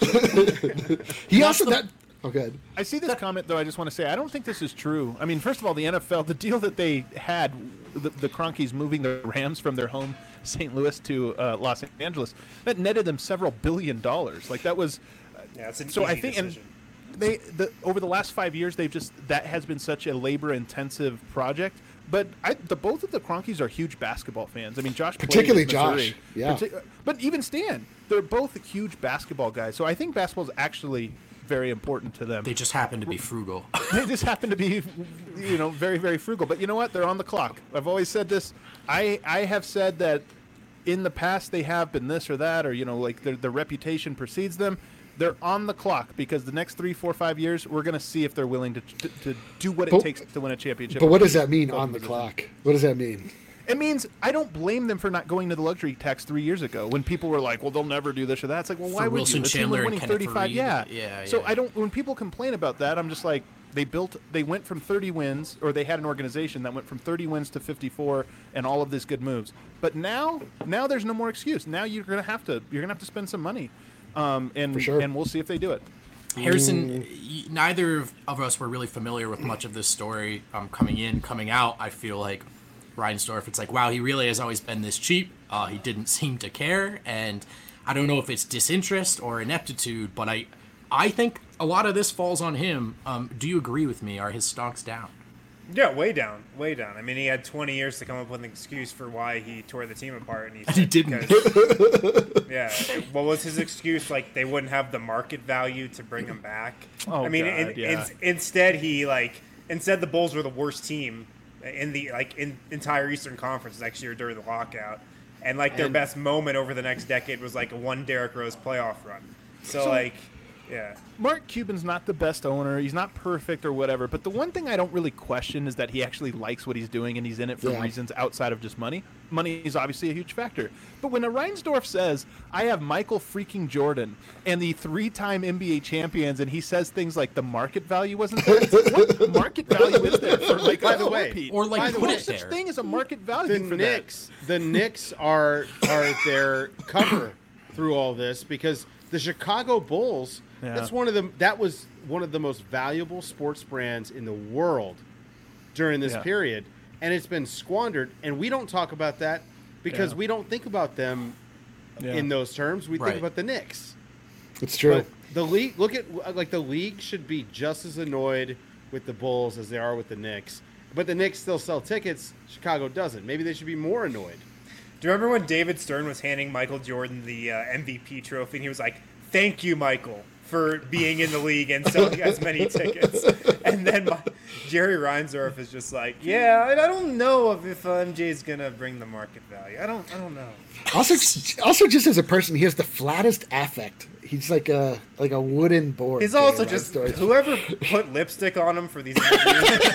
He also the- that. Oh, good. I see this comment though. I just want to say I don't think this is true. I mean, first of all, the N F L, the deal that they had, the, the Cronkies moving the Rams from their home Saint Louis to uh, Los Angeles, that netted them several billion dollars. Like that was. Yeah, it's an so easy I think decision. and they the, over the last five years they've just that has been such a labor intensive project. But I, the both of the Cronkies are huge basketball fans. I mean, Josh played Particularly at Missouri. Josh, yeah. Partic- but even Stan, they're both huge basketball guys. So I think basketball is actually very important to them. They just happen to be frugal. They just happen to be, you know, very, very frugal. But you know what? They're on the clock. I've always said this. I, I have said that in the past they have been this or that, or, you know, like their, their reputation precedes them. They're on the clock because the next three, four, five years, we're going to see if they're willing to, to, to do what it But- takes to win a championship. But what does that mean on the clock? What does that mean? It means I don't blame them for not going to the luxury tax three years ago when people were like, well, they'll never do this or that. It's like, well, why For would Wilson you? The team Chandler was and winning Kenneth thirty-five. Reed. Yeah. Yeah, So yeah. I don't, when people complain about that, I'm just like, they built, they went from thirty wins, or they had an organization that went from thirty wins to fifty-four and all of these good moves. But now, now there's no more excuse. Now you're going to have to, you're going to have to spend some money. Um, and, For sure. and we'll see if they do it. Harrison, y- neither of- of us were really familiar with much of this story um, coming in, coming out. I feel like Reinsdorf, it's like, wow, he really has always been this cheap. Uh, he didn't seem to care, and I don't know if it's disinterest or ineptitude, but I, I think a lot of this falls on him. Um, do you agree with me? Are his stocks down? Yeah, way down, way down. I mean, he had twenty years to come up with an excuse for why he tore the team apart, and he, And he said didn't. because- yeah, what was his excuse? Like they wouldn't have the market value to bring him back. Oh, I mean, God, in, yeah. in, instead he like instead the Bulls were the worst team in the like in entire Eastern Conference next year during the lockout, and like their And- best moment over the next decade was like a one Derrick Rose playoff run. So, So- like, yeah. Mark Cuban's not the best owner. He's not perfect or whatever. But the one thing I don't really question is that he actually likes what he's doing and he's in it for Yeah. reasons outside of just money. money is obviously a huge factor. But when a Reinsdorf says, I have Michael freaking Jordan and the three-time N B A champions, and he says things like the market value wasn't there, what market value is there for like By the a way, repeat? Or like By the put way, it such there. thing as a market value the for Knicks, the Knicks are are their cover through all this because the Chicago Bulls. Yeah. That's one of the that was one of the most valuable sports brands in the world during this Yeah. period, and it's been squandered. And we don't talk about that because Yeah. we don't think about them Yeah. in those terms. We Right. think about the Knicks. It's true. But the league, look at like the league should be just as annoyed with the Bulls as they are with the Knicks. But the Knicks still sell tickets. Chicago doesn't. Maybe they should be more annoyed. Do you remember when David Stern was handing Michael Jordan the uh, M V P trophy, and he was like, "Thank you, Michael, for being in the league and selling as many tickets." And then my, Jerry Reinsdorf is just like, "Yeah, I don't know if, if uh, M J's gonna bring the market value. I don't, I don't know." Also, also just as a person, he has the flattest affect. He's like a like a wooden board. He's also Jerry just Reinsdorf. whoever put lipstick on him for these interviews is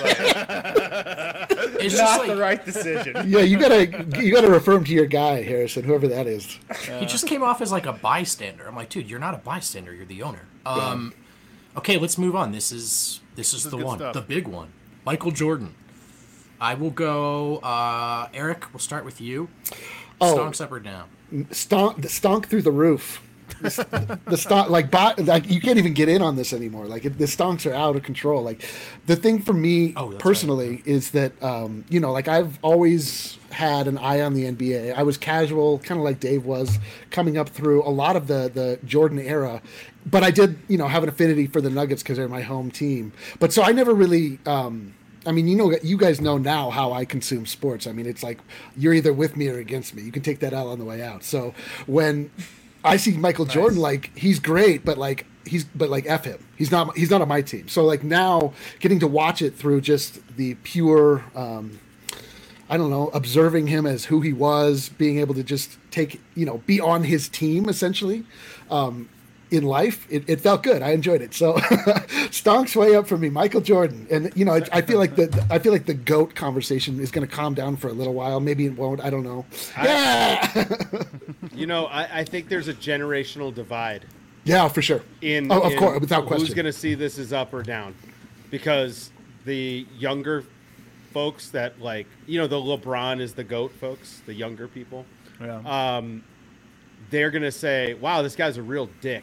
like, It's not just like the right decision. Yeah, you gotta you gotta refer him to your guy, Harrison, whoever that is. he just came off as like a bystander. I'm like, dude, you're not a bystander. You're the owner. Um, okay, let's move on. This is this is is the good one, stuff. the big one. Michael Jordan. I will go. Uh, Eric, we'll start with you. Oh. Stonks up or down? Stonk, the stonk through the roof. The, the stonk, like, bot, like you can't even get in on this anymore. Like it, the stonks are out of control. Like the thing for me Oh, that's personally is that um, you know, like I've always had an eye on the N B A. I was casual, kind of like Dave was, coming up through a lot of the the Jordan era. But I did, you know, have an affinity for the Nuggets because they're my home team. But so I never really. Um, I mean, you know, you guys know now how I consume sports. I mean, it's like you're either with me or against me. You can take that out on the way out. So when I see Michael Jordan, like he's great, but like he's but like F him. He's not he's not on my team. So like now getting to watch it through just the pure um, I don't know, observing him as who he was, being able to just take, you know, be on his team essentially. Um, in life, it, it felt good. I enjoyed it. So, stonks way up for me, Michael Jordan, and you know, it, I feel like the I feel like the GOAT conversation is going to calm down for a little while. Maybe it won't. I don't know. Yeah, You know, I, I think there's a generational divide yeah, for sure. in. oh, of in course, without Who's question. going to see this as up or down? Because the younger folks that like, you know, the LeBron is the GOAT folks, the younger people. Yeah. Um, they're going to say, wow, this guy's a real dick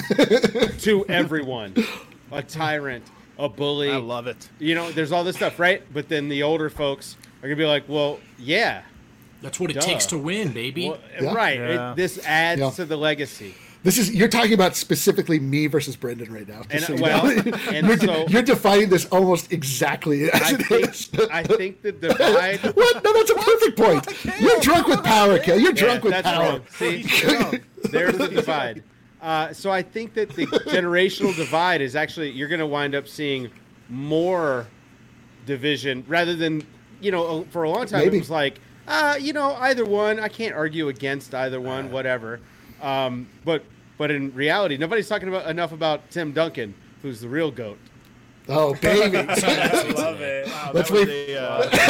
to everyone. A tyrant, a bully. I love it. You know, there's all this stuff, right? But then the older folks are going to be like, well, yeah. That's what it Duh. takes to win, baby. Well, Yeah. Right. Yeah. It, this adds Yeah. to the legacy. This is you're talking about specifically me versus Brendan right now. just And, so you well, know. and you're, so you're defining this almost exactly as I it think, is. I think the divide. What? No, that's a perfect point. You're drunk with power, Kel. You're drunk with that's power. wrong. See, there's the divide. Uh, so I think that the generational divide is actually you're going to wind up seeing more division rather than, you know, for a long time Maybe. it was like, uh, you know, either one. I can't argue against either one, whatever. Um, but but in reality, nobody's talking about enough about Tim Duncan, who's the real GOAT. Oh, baby. I love it. Wow, Let's that was wait. a,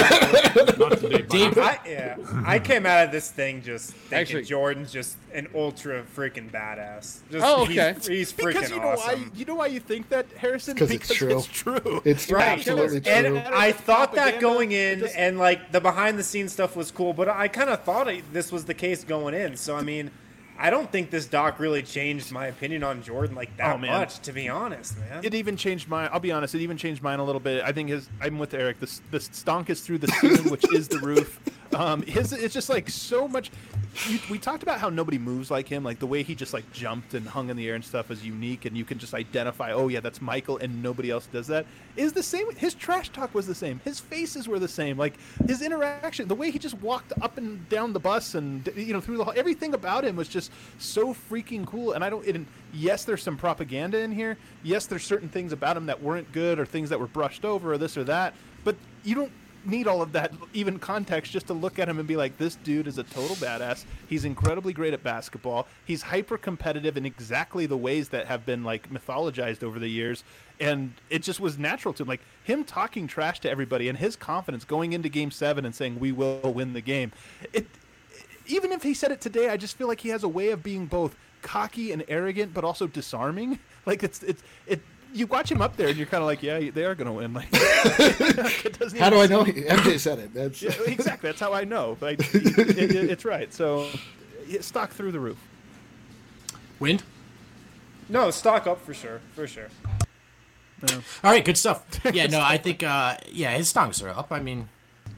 uh, Dave, I, yeah, I came out of this thing just thinking Actually- Jordan's just an ultra freaking badass. Just, Oh, okay. He's, he's freaking because you know awesome. why you know why you think that, Harrison? 'Cause it's true. It's true. It's Right. absolutely true. And I thought that Propaganda, going in, just- and like the behind the scenes stuff was cool, but I kind of thought it, this was the case going in. So I mean, I don't think this doc really changed my opinion on Jordan like that Oh, man. much, to be honest, man. It even changed mine. I'll be honest. It even changed mine a little bit. I think his. I'm with Eric. The the stonk is through the ceiling, which is the roof. Um, his. It's just like so much. You, we talked about how nobody moves like him. Like the way he just like jumped and hung in the air and stuff is unique, and you can just identify. Oh yeah, that's Michael, and nobody else does that. Is the same. His trash talk was the same. His faces were the same. Like his interaction, the way he just walked up and down the bus, and you know through the everything about him was just so freaking cool. And I don't. And yes, there's some propaganda in here. Yes, there's certain things about him that weren't good, or things that were brushed over, or this or that. But you don't. need all of that even context just to look at him and be like, this dude is a total badass. He's incredibly great at basketball. He's hyper competitive in exactly the ways that have been like mythologized over the years. And it just was natural to him. Like him talking trash to everybody and his confidence going into game seven and saying, we will win the game. It, even if he said it today, I just feel like he has a way of being both cocky and arrogant, but also disarming. Like it's, it's, it, you watch him up there and you're kind of like, yeah, they are going to win. Like, it doesn't how do I seem- know? He, M J said it. That's Yeah, exactly. That's how I know. But I, it, it, it's right. So yeah, stock through the roof. Wind? No, stock up for sure, for sure. All right, good stuff. Yeah, no, I think, uh, yeah, his stocks are up. I mean,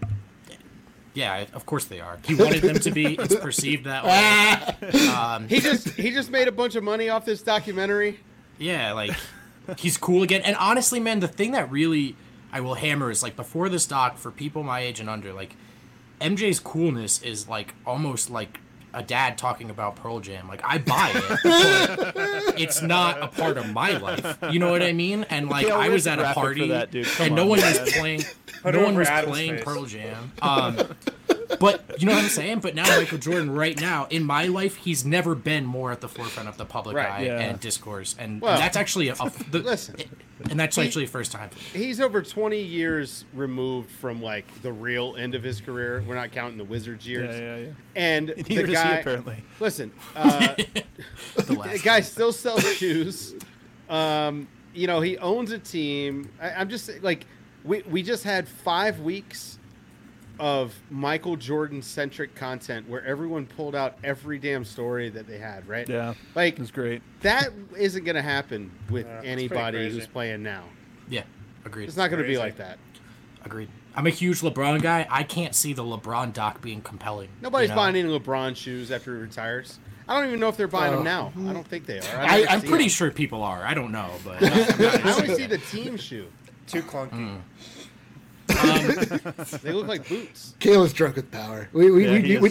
yeah, of course they are. He wanted them to be. It's perceived that way. Um, He just he just made a bunch of money off this documentary. yeah, like, he's cool again. And honestly, man, the thing that really I will hammer is, like, before this doc, for people my age and under, like, M J's coolness is, like, almost like a dad talking about Pearl Jam. Like, I buy it, but it's not a part of my life. You know what I mean? And, like, Yeah, I was where's at the a graphic party, for that, dude? Come and no on, one man. was playing, Put no it one over was Adam's playing face. Pearl Jam. Um, but you know what I'm saying? But now Michael Jordan, right now, in my life, he's never been more at the forefront of the public Right, eye yeah. and discourse. And, Well, and that's actually a, a the, listen. and that's He- actually the first time. He's over twenty years removed from like the real end of his career. We're not counting the Wizards years. Yeah, yeah, yeah. And Neither the does he, guy, apparently. listen, uh, The the last guy still sells shoes. Um, you know, he owns a team. I, I'm just like, we we just had five weeks of Michael Jordan centric content where everyone pulled out every damn story that they had. Right? Yeah. Like It was great. that isn't going to happen with Yeah, it's pretty anybody crazy. who's playing now. Yeah, agreed. It's not going to be Crazy. like that. Agreed. I'm a huge LeBron guy. I can't see the LeBron doc being compelling. Nobody's you know? buying any LeBron shoes after he retires. I don't even know if they're buying them Oh. now. I don't think they are. I, I never I'm see pretty them. sure people are. I don't know, but I'm not I only see the team shoe. Too clunky. They look like boots. Kayla's drunk with power. We we Yeah, we, he we, is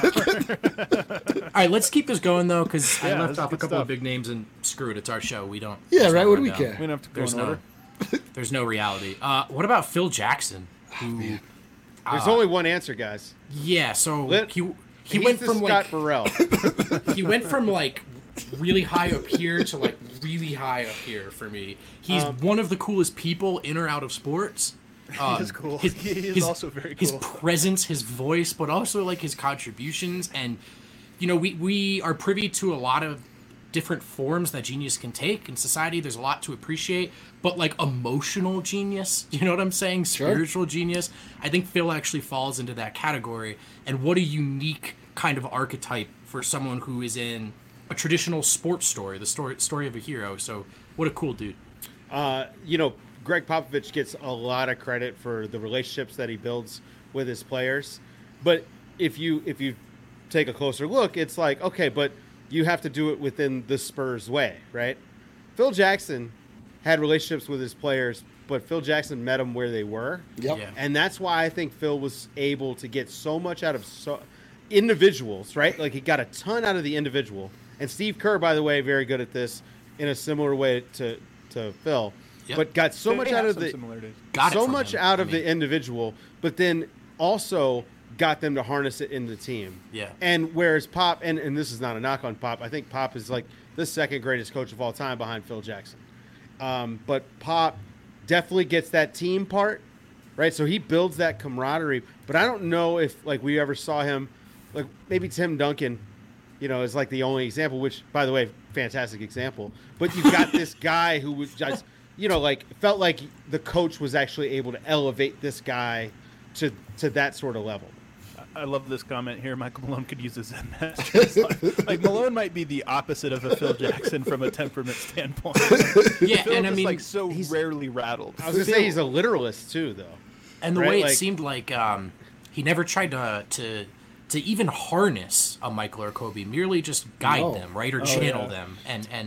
drunk. All right, let's keep this going though, because I Yeah, left this is off a good couple stuff. of big names and screw it. It's our show. We don't. Yeah, there's right, no what do we rundown. care? We don't have to go There's in no. order. There's no reality. Uh, what about Phil Jackson? Who? There's only one answer, guys. Yeah. So Lit- he he He's went the from Scott like Burrell. he went from like really high up here to like really high up here for me. He's Um, one of the coolest people in or out of sports. Um, He is cool. His, He is his- also very His cool. presence, his voice, but also like his contributions, and you know, we we are privy to a lot of different forms that genius can take in society. There's a lot to appreciate, but like emotional genius, you know what I'm saying? Sure. Spiritual genius. I think Phil actually falls into that category. And what a unique kind of archetype for someone who is in a traditional sports story, the story story of a hero. So what a cool dude. Uh, you know, Greg Popovich gets a lot of credit for the relationships that he builds with his players. But if you if you take a closer look, it's like, okay, but you have to do it within the Spurs way, right? Phil Jackson had relationships with his players, but Phil Jackson met them where they were. Yep. Yeah. And that's why I think Phil was able to get so much out of so individuals, right? Like he got a ton out of the individual. And Steve Kerr, by the way, very good at this in a similar way to, to Phil, Yep. but got so They much have out of some the similarities. Got it so from much him. out I of mean- the individual, but then also got them to harness it in the team. Yeah. And whereas Pop, and, and this is not a knock on Pop, I think Pop is like the second greatest coach of all time behind Phil Jackson. Um, but Pop definitely gets that team part, right? So he builds that camaraderie. But I don't know if like we ever saw him, like maybe Tim Duncan, you know, is like the only example. Which, by the way, fantastic example. But you got this guy who was just, you know, like felt like the coach was actually able to elevate this guy to to that sort of level. I love this comment here. Michael Malone could use a Zen master. It's like, like Malone might be the opposite of a Phil Jackson from a temperament standpoint. Yeah, Phil and I just mean, like so rarely rattled. I was gonna say he's a literalist too, though. and the right? way it Like- seemed like um, he never tried to to to even harness a Michael or Kobe, merely just guide No. them, right, or Oh, channel yeah. them. And and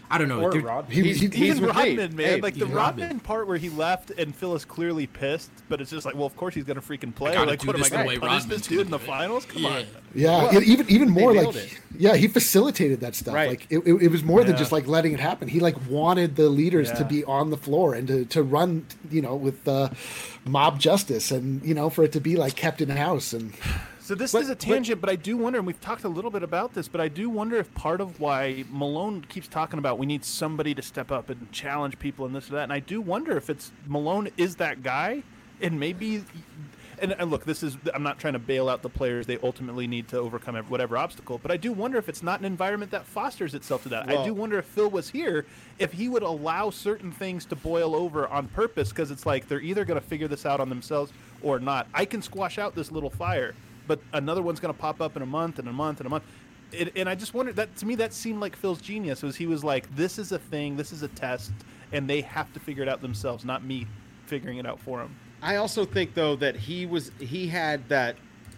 I don't know. Or They're- Rodman. He- He's, he- he's Even with me. Rodman, man. Hey, like the even Rodman, Rodman. part where he left and Phil is clearly pissed, but it's just like, well, of course he's gonna freaking play. gotta Like, do what am I this the gonna way punish Rodman's this dude in the gonna do it. finals? Come Yeah. on. Yeah, Well, e- even even more nailed like it. yeah, he facilitated that stuff. Right. Like it, it, it was more than Yeah. just like letting it happen. He like wanted the leaders to Yeah. be on the floor and to, to run, you know, with uh, mob justice, and you know, for it to be like kept in house. And So this But- is a tangent, but I do wonder, and we've talked a little bit about this, but I do wonder if part of why Malone keeps talking about we need somebody to step up and challenge people and this or that, and I do wonder if it's Malone is that guy, and maybe, and, and look, this is, I'm not trying to bail out the players. They ultimately need to overcome ev- whatever obstacle, but I do wonder if it's not an environment that fosters itself to that. I Well- do wonder if Phil was here, if he would allow certain things to boil over on purpose, because it's like they're either going to figure this out on themselves or not. I can squash out this little fire, but another one's going to pop up in a month and a month and a month. It, and I just wondered, that to me, that seemed like Phil's genius. Was he was like, this is a thing, this is a test, and they have to figure it out themselves, not me figuring it out for them. I also think though that he was he had that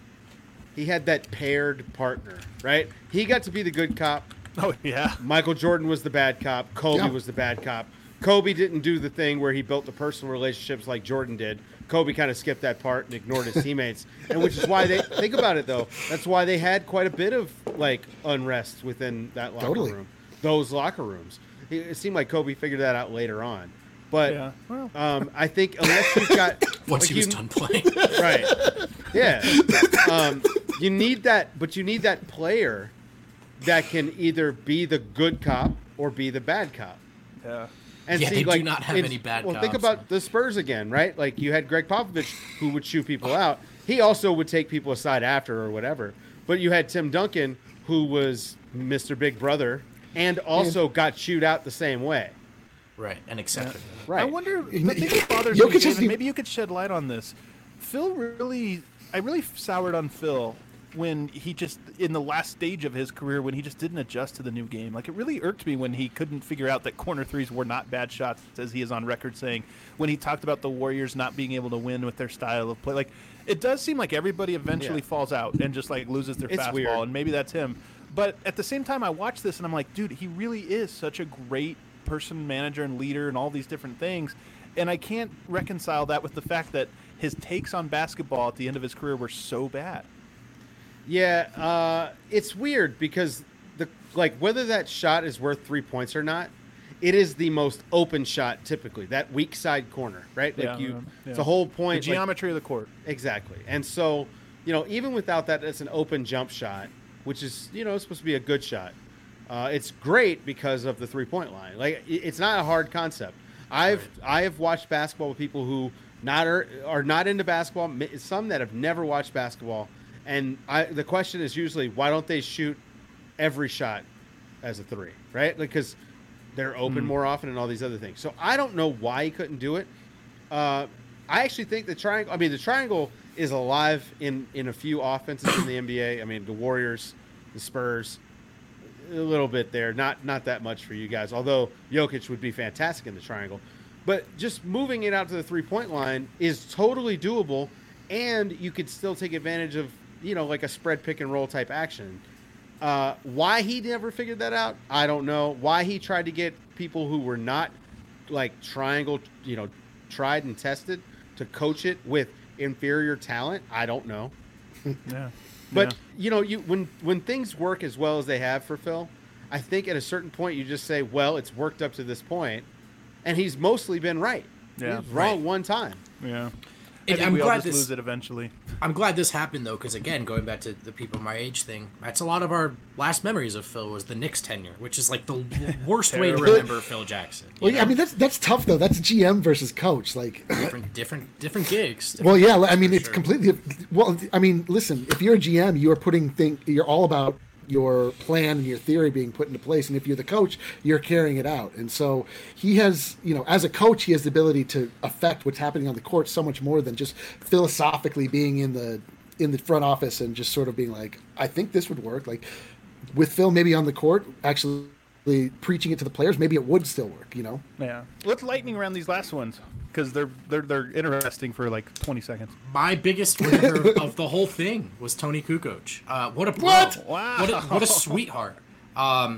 he had that paired partner, right? He got to be the good cop. Oh yeah, Michael Jordan was the bad cop. Kobe Yeah. was the bad cop. Kobe didn't do the thing where he built the personal relationships like Jordan did. Kobe kind of skipped that part and ignored his teammates, and which is why they think about it though. That's why they had quite a bit of like unrest within that locker Totally. room, those locker rooms. It it seemed like Kobe figured that out later on, but yeah. Well, um, I think unless you've got once like he was you- done playing. right, yeah, um, you need that, but you need that player that can either be the good cop or be the bad cop. yeah. And Yeah, see, they do like, not have it's- any bad Well, think cops. about the Spurs again, right? Like you had Greg Popovich who would chew people out. He also would take people aside after or whatever. But you had Tim Duncan who was Mister Big Brother and also got chewed out the same way. Right, and accepted. Right. I wonder. The thing that bothers Jokic me, hasn't David, even- maybe you could shed light on this. Phil really, I really soured on Phil when he just in the last stage of his career when he just didn't adjust to the new game. Like it really irked me when he couldn't figure out that corner threes were not bad shots, as he is on record saying. When he talked about the Warriors not being able to win with their style of play, like it does seem like everybody eventually Yeah. falls out and just like loses their It's fastball, weird. and maybe that's him. But at the same time, I watch this and I'm like, dude, he really is such a great person, manager, and leader, and all these different things. And I can't reconcile that with the fact that his takes on basketball at the end of his career were so bad. Yeah, uh, it's weird because the like whether that shot is worth three points or not, it is the most open shot typically. That weak side corner, right? Like Yeah, you, yeah. it's a whole The point. like- geometry of the court. Exactly. And so, you know, even without that, it's an open jump shot, which is, you know, supposed to be a good shot. Uh, it's great because of the three point line. Like, i- it's not a hard concept. I've I have watched basketball with people who not are, are not into basketball. m- Some that have never watched basketball, and I, the question is usually why don't they shoot every shot as a three, right? Because they're open more often and all these other things. So I don't know why he couldn't do it. Uh, I actually think the triangle. I mean, the triangle is alive in in a few offenses in the N B A. I mean, the Warriors, the Spurs, a little bit there. Not not that much for you guys. Although Jokic would be fantastic in the triangle, but just moving it out to the three point line is totally doable, and you could still take advantage of you know like a spread pick and roll type action. Uh, why he never figured that out, I don't know. Why he tried to get people who were not like triangle, you know, tried and tested to coach it with inferior talent, I don't know. Yeah. But you know, you when when things work as well as they have for Phil, I think at a certain point you just say, well, it's worked up to this point, and he's mostly been right. Yeah. He's wrong Right. one time. Yeah. And I think I'm we all glad just this- lose it eventually. I'm glad this happened though, because again, going back to the people my age thing, that's a lot of our last memories of Phil was the Knicks tenure, which is like the worst way to Terrible. remember Phil Jackson. you well, yeah, I know? mean that's that's tough though. That's G M versus coach. Like, different, different, different gigs. well, different yeah. I mean, for it's sure. completely. Well, I mean, listen. If you're a G M, you are putting thing. You're all about your plan and your theory being put into place. And if you're the coach, you're carrying it out. And so he has, you know, as a coach, he has the ability to affect what's happening on the court so much more than just philosophically being in the in the front office and just sort of being like, I think this would work. Like with Phil, maybe on the court, actually preaching it to the players, maybe it would still work. You know. Yeah. Let's lightning around these last ones because they're they're they're interesting for like twenty seconds. My biggest winner of the whole thing was Tony Kukoc. Uh, what a bro. What? Wow. What a, what a sweetheart. Um,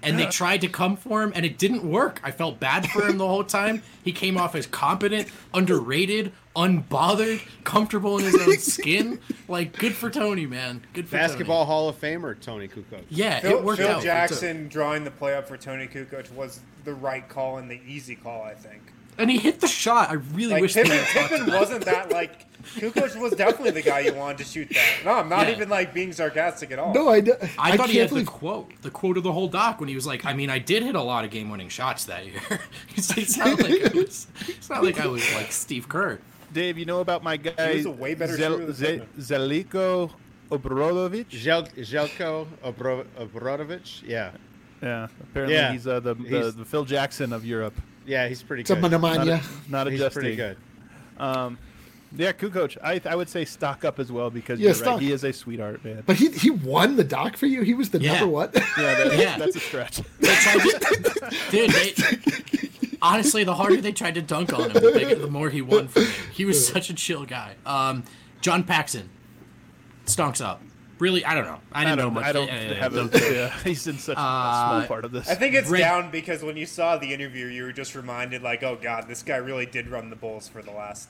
and they tried to come for him, and it didn't work. I felt bad for him the whole time. He came off as competent, underrated, unbothered, comfortable in his own skin. Like, good for Tony, man. Good for Basketball Tony. Hall of Famer Tony Kukoc. Yeah, Phil, it worked Phil out. Jackson drawing the play up for Tony Kukoc was the right call and the easy call, I think. And he hit the shot. I really Like wish Pippen, they had talked Pippen about wasn't that like Kukoc was definitely the guy you wanted to shoot that. No, I'm not Yeah. even like being sarcastic at all. No, I, d- I, I thought he can't had believe. the quote, the quote of the whole doc when he was like, "I mean, I did hit a lot of game-winning shots that year." It's, it's not like I was. It's not like I was like Steve Kerr. Dave, you know about my guy He was a way better shooter than Ze- Pippen. Zeliko Obradovic? Žel- Željko Obro- Obradovic. Yeah, Yeah, apparently Yeah. he's uh, the, the He's- the Phil Jackson of Europe. yeah, he's pretty It's a good. Not, Manamania. a, not He's adjusting. pretty good. Yeah, Kukoc. I I would say stock up as well because Yeah, you're stock. right. He is a sweetheart, man. But he he won the doc for you. He was the Yeah. number one. Yeah, that, Yeah. that's a stretch. They tried to, dude. They, honestly, the harder they tried to dunk on him, the, bigger, the more he won for me. He was such a chill guy. Um, John Paxson stonks up. Really, I don't know. I I didn't know don't. much. I don't yeah, yeah, have yeah, a. Yeah, he's in such a small part of this. I think it's Red- down because when you saw the interview, you were just reminded, like, oh god, this guy really did run the Bulls for the last.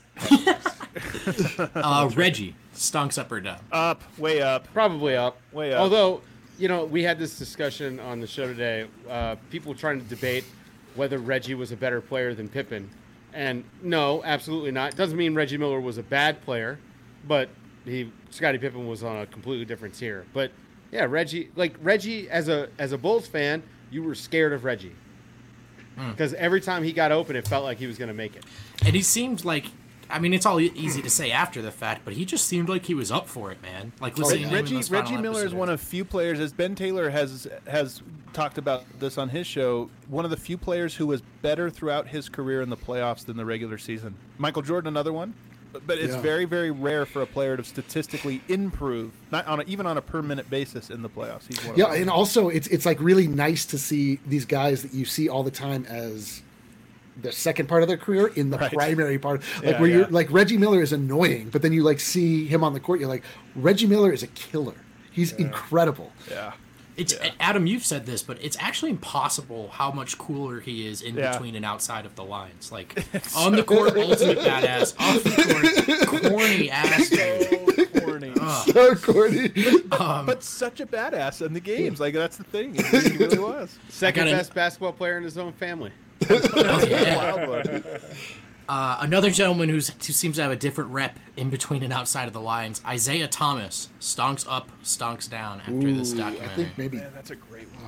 Uh, Reggie stonks up or down. up, way up. Probably up. Way up. Although, you know, we had this discussion on the show today. Uh, people trying to debate whether Reggie was a better player than Pippen. And no, absolutely not. Doesn't mean Reggie Miller was a bad player, but he Scottie Pippen was on a completely different tier. But yeah, Reggie, like Reggie as a as a Bulls fan, you were scared of Reggie. Because every time he got open, it felt like he was going to make it. And he seemed like, I mean, it's all e- easy to say after the fact, but he just seemed like he was up for it, man. Like listening to him in Reggie those final Reggie Miller is episodes. one of few players, as Ben Taylor has has talked about this on his show. One of the few players who was better throughout his career in the playoffs than the regular season. Michael Jordan, another one, but, but it's Yeah. very very rare for a player to statistically improve, not on a, even on a per minute basis in the playoffs. He's one of Yeah, them. and also it's it's like really nice to see these guys that you see all the time as the second part of their career in the Right. primary part. Like Yeah, where yeah. you're like Reggie Miller is annoying, but then you like see him on the court, you're like, Reggie Miller is a killer. He's incredible. yeah. It's Adam, you've said this, but it's actually impossible how much cooler he is in Yeah. between and outside of the lines. Like on the court, ultimate badass. Off the court, corny ass dude. So corny. So corny. but such a badass in the games. Like that's the thing. He really, he really was. Second gotta- best basketball player in his own family. Oh, yeah. Wild one. Uh, another gentleman who's, who seems to have a different rep in between and outside of the lines, Isaiah Thomas, stonks up, stonks down after this Ooh, I documentary. think maybe Man, that's a great one.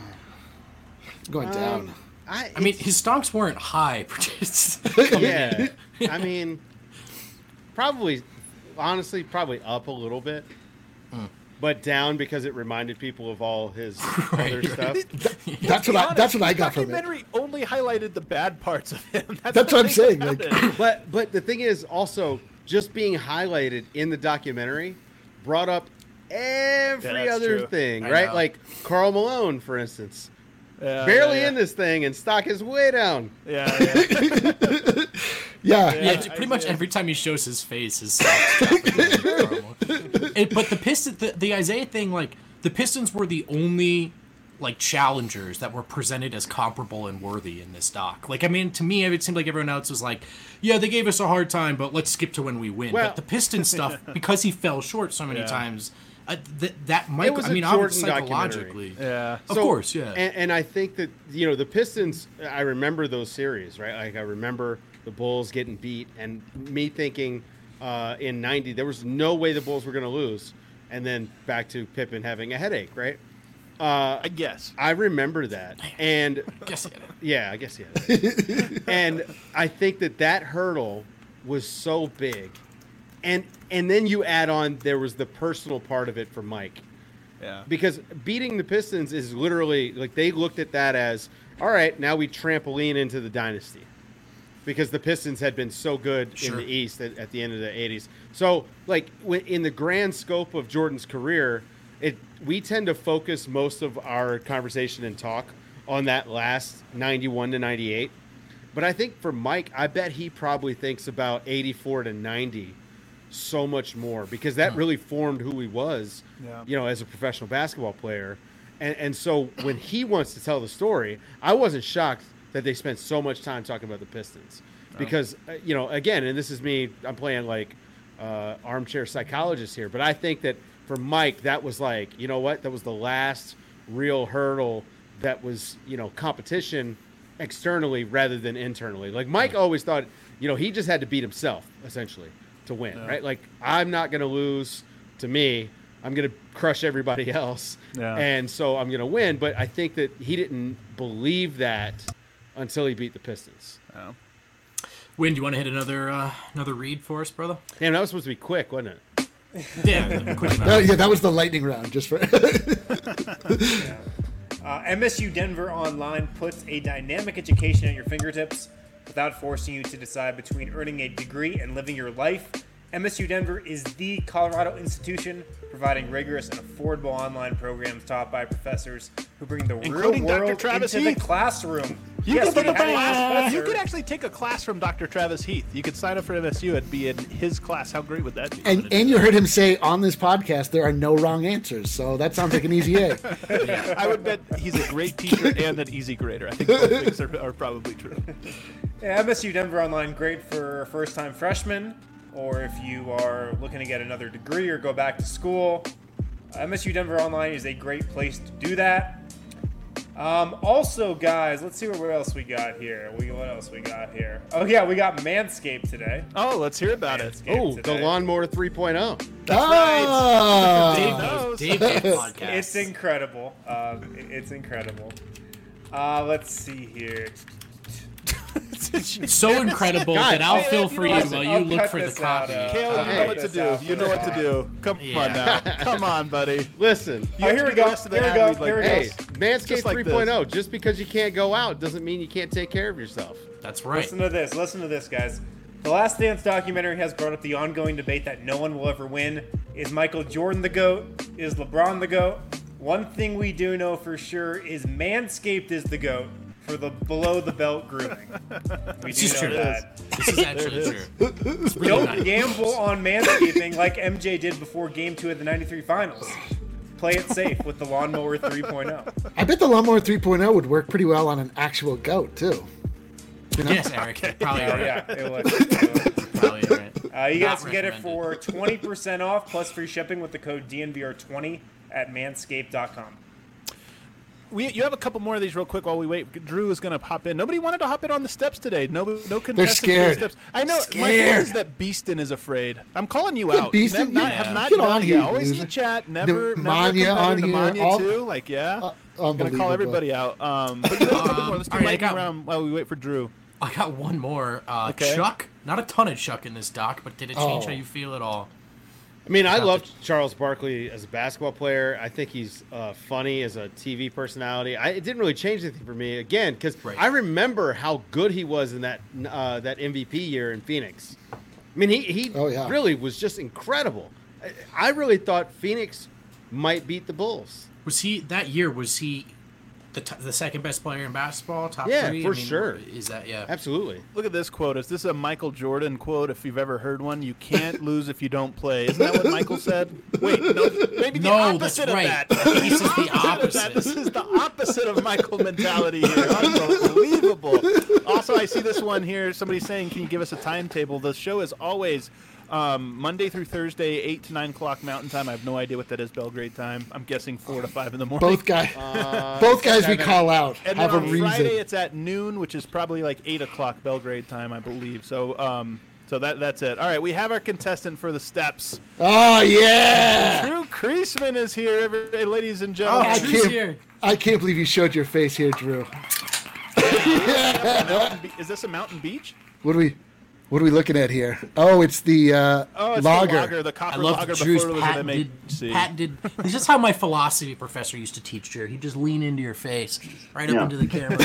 going down. I, I mean, it's- his stonks weren't high. It's- yeah. I mean, probably, honestly, probably up a little bit, but down because it reminded people of all his other stuff. That's what I that's what I got from it. Documentary only highlighted the bad parts of him. That's, That's the what I'm thing saying, about like- it. But but the thing is also just being highlighted in the documentary brought up every Yeah, that's other true. thing, I right? know. Like Karl Malone, for instance, Yeah, barely yeah, yeah. in this thing, and stock is way down. Yeah, yeah. Yeah. Yeah, j- pretty much every time he shows his face, his socks dropping. It- But the Pistons, the, the Isaiah thing, like the Pistons were the only like challengers that were presented as comparable and worthy in this doc. Like, I mean, to me, it seemed like everyone else was like, "Yeah, they gave us a hard time, but let's skip to when we win." Well- but the Pistons stuff, because he fell short so many Yeah. times, uh, th- that might. was I a mean, Jordan obviously, documentary. psychologically, Yeah. of So- course, yeah. And, and I think that you know the Pistons. I remember those series, right? Like I remember the Bulls getting beat, and me thinking uh, in ninety there was no way the Bulls were going to lose, and then back to Pippen having a headache, right? Uh, I guess. I remember that, and Guess I get it. yeah, I guess yeah. And I think that that hurdle was so big, and and then you add on there was the personal part of it for Mike. Yeah. Because beating the Pistons is literally like they looked at that as all right. Now we trampoline into the dynasty, because the Pistons had been so good Sure. in the East at, at the end of the eighties. So like when, in the grand scope of Jordan's career, it we tend to focus most of our conversation and talk on that last ninety-one to ninety-eight. But I think for Mike, I bet he probably thinks about eighty-four to ninety so much more, because that really formed who he was, Yeah. you know, as a professional basketball player. And, and so when he wants to tell the story, I wasn't shocked that they spent so much time talking about the Pistons. Because, uh, you know, again, and this is me, I'm playing like uh, armchair psychologist here, but I think that for Mike, that was like, you know what, that was the last real hurdle that was, you know, competition externally rather than internally. Like Mike always thought, you know, he just had to beat himself, essentially, to win, yeah. right? Like, I'm not going to lose to me. I'm going to crush everybody else. Yeah. And so I'm going to win. But I think that he didn't believe that until he beat the Pistons. Yeah. Win, do you want to hit another uh, another read for us, brother? Damn, that was supposed to be quick, wasn't it? Yeah, quick that, yeah, that was the lightning round, just for. yeah. uh, M S U Denver Online puts a dynamic education at your fingertips without forcing you to decide between earning a degree and living your life. M S U Denver is the Colorado institution providing rigorous and affordable online programs taught by professors who bring the Including real Doctor world Travis into Heath. the classroom. You, yes, could, we have a professor. you could actually take a class from Doctor Travis Heath. You could sign up for M S U and be in his class. How great would that be? And and you heard him say on this podcast there are no wrong answers, so that sounds like an easy A. Yeah, I would bet he's a great teacher and an easy grader. I think both things are, are probably true. Yeah, M S U Denver Online, great for first-time freshmen, or if you are looking to get another degree or go back to school. M S U Denver Online is a great place to do that. Um, also, guys, let's see what else we got here. We, what else we got here? Oh, yeah, we got Manscaped today. Oh, let's hear about Manscaped it. Oh, the Lawnmower three point oh. That's oh. right. Dave knows. Dave knows podcast. It's incredible. Um, it, it's incredible. Uh, let's see here. It's so incredible God, that I'll I'll- fill you for know you what? while I'll you look cut for the this out, copy. uh, Kale, you I'll know cut what to this do. out You for know the what to pod. do. Come Yeah. on now. Come on, buddy. Listen, Oh, here we go. Rest of the Here we ad go. read like Here we hey, go. Manscaped Just like 3.0, just because you can't go out doesn't mean you can't take care of yourself. That's right. Listen to this. Listen to this, guys. The Last Dance documentary has brought up the ongoing debate that no one will ever win. Is Michael Jordan the GOAT? Is LeBron the GOAT? One thing we do know for sure is Manscaped is the GOAT for the below-the-belt grooming. We This do is know true. that. This is actually true. It's really Don't nice. gamble on manscaping like M J did before Game two of the ninety-three Finals. Play it safe with the Lawnmower three point oh. I bet the Lawnmower three point oh would work pretty well on an actual goat too. You know? Yes, Eric. you're Probably Oh, right. yeah, it would. It would. Probably right. Uh, you guys Not can get it recommended. for twenty percent off plus free shipping with the code D N V R twenty at manscaped dot com. We, you have a couple more of these real quick while we wait. Drew is going to hop in. Nobody wanted to hop in on the steps today. No, no contestants. scared. For the steps. I know. Scared. My feeling is that Beeston is afraid. I'm calling you Yeah, out. Beeston, Have not, yeah. have not Get done on it here, yet. Always loser. in the chat. Never, The never Manya a on competitor to here, Manya all- too. Like, yeah. Uh, Gonna call unbelievable. everybody out. Um, but you have a couple more. Let's do all right, I lightning got- round while we wait for Drew. I got one more. Uh, Okay. Chuck. Not a ton of Chuck in this doc, but did it change Oh. how you feel at all? I mean, I Not loved Charles Barkley as a basketball player. I think he's uh, funny as a T V personality. I, it didn't really change anything for me, again, because Right. I remember how good he was in that uh, that M V P year in Phoenix. I mean, he, he Oh, yeah. really was just incredible. I, I really thought Phoenix might beat the Bulls. Was he that year? Was he the t- the second best player in basketball? Top Yeah, three? for I mean, sure. Is that yeah? Absolutely. Look at this quote. Is this a Michael Jordan quote? If you've ever heard one, you can't lose if you don't play. Isn't that what Michael said? Wait, no, maybe the No, that's opposite of right. that. I think he says the Of that. opposite. This is the opposite of Michael mentality here. Unbelievable. Also, I see this one here. Somebody saying, "Can you give us a timetable?" The show is always um, Monday through Thursday, eight to nine o'clock Mountain Time. I have no idea what that is Belgrade time. I'm guessing four to five in the morning. Both guys, both guys we seven. call out And have then a on reason. Friday it's at noon, which is probably like eight o'clock Belgrade time, I believe. So, um, so that that's it. All right, we have our contestant for the steps. Oh yeah! Drew Kreisman is here, every, ladies and gentlemen. I Drew's can't, here. I can't believe you showed your face here, Drew. Mountain Be- is this a mountain beach? What are we, what are we looking at here? Oh, it's the uh, Oh, it's lager. the lager, the I copper love lager Drew's before it was an patented, M H C. patented. This is how my philosophy professor used to teach, Drew. He'd just lean into your face, right up Yeah. into the camera.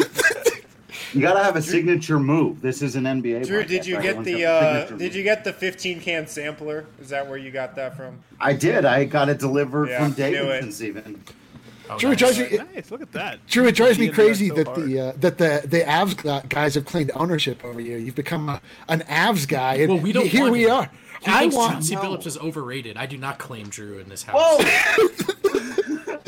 You gotta have a signature move. This is an N B A. Drew, podcast. did you get Everyone's the got a uh, signature did move. you get the fifteen can sampler? Is that where you got that from? I did. I got it delivered Yeah, from knew it. Davidson's even. Oh, Drew, it nice. drives me, Nice, look at that. Drew, it drives me Being done crazy so that hard. the uh, that the the Avs gu- guys have claimed ownership over you. You've become a, an Avs guy, and Well, we don't. here want we him. are. He I thinks want Chauncey no. Billups is overrated. I do not claim Drew in this house. Whoa! I'm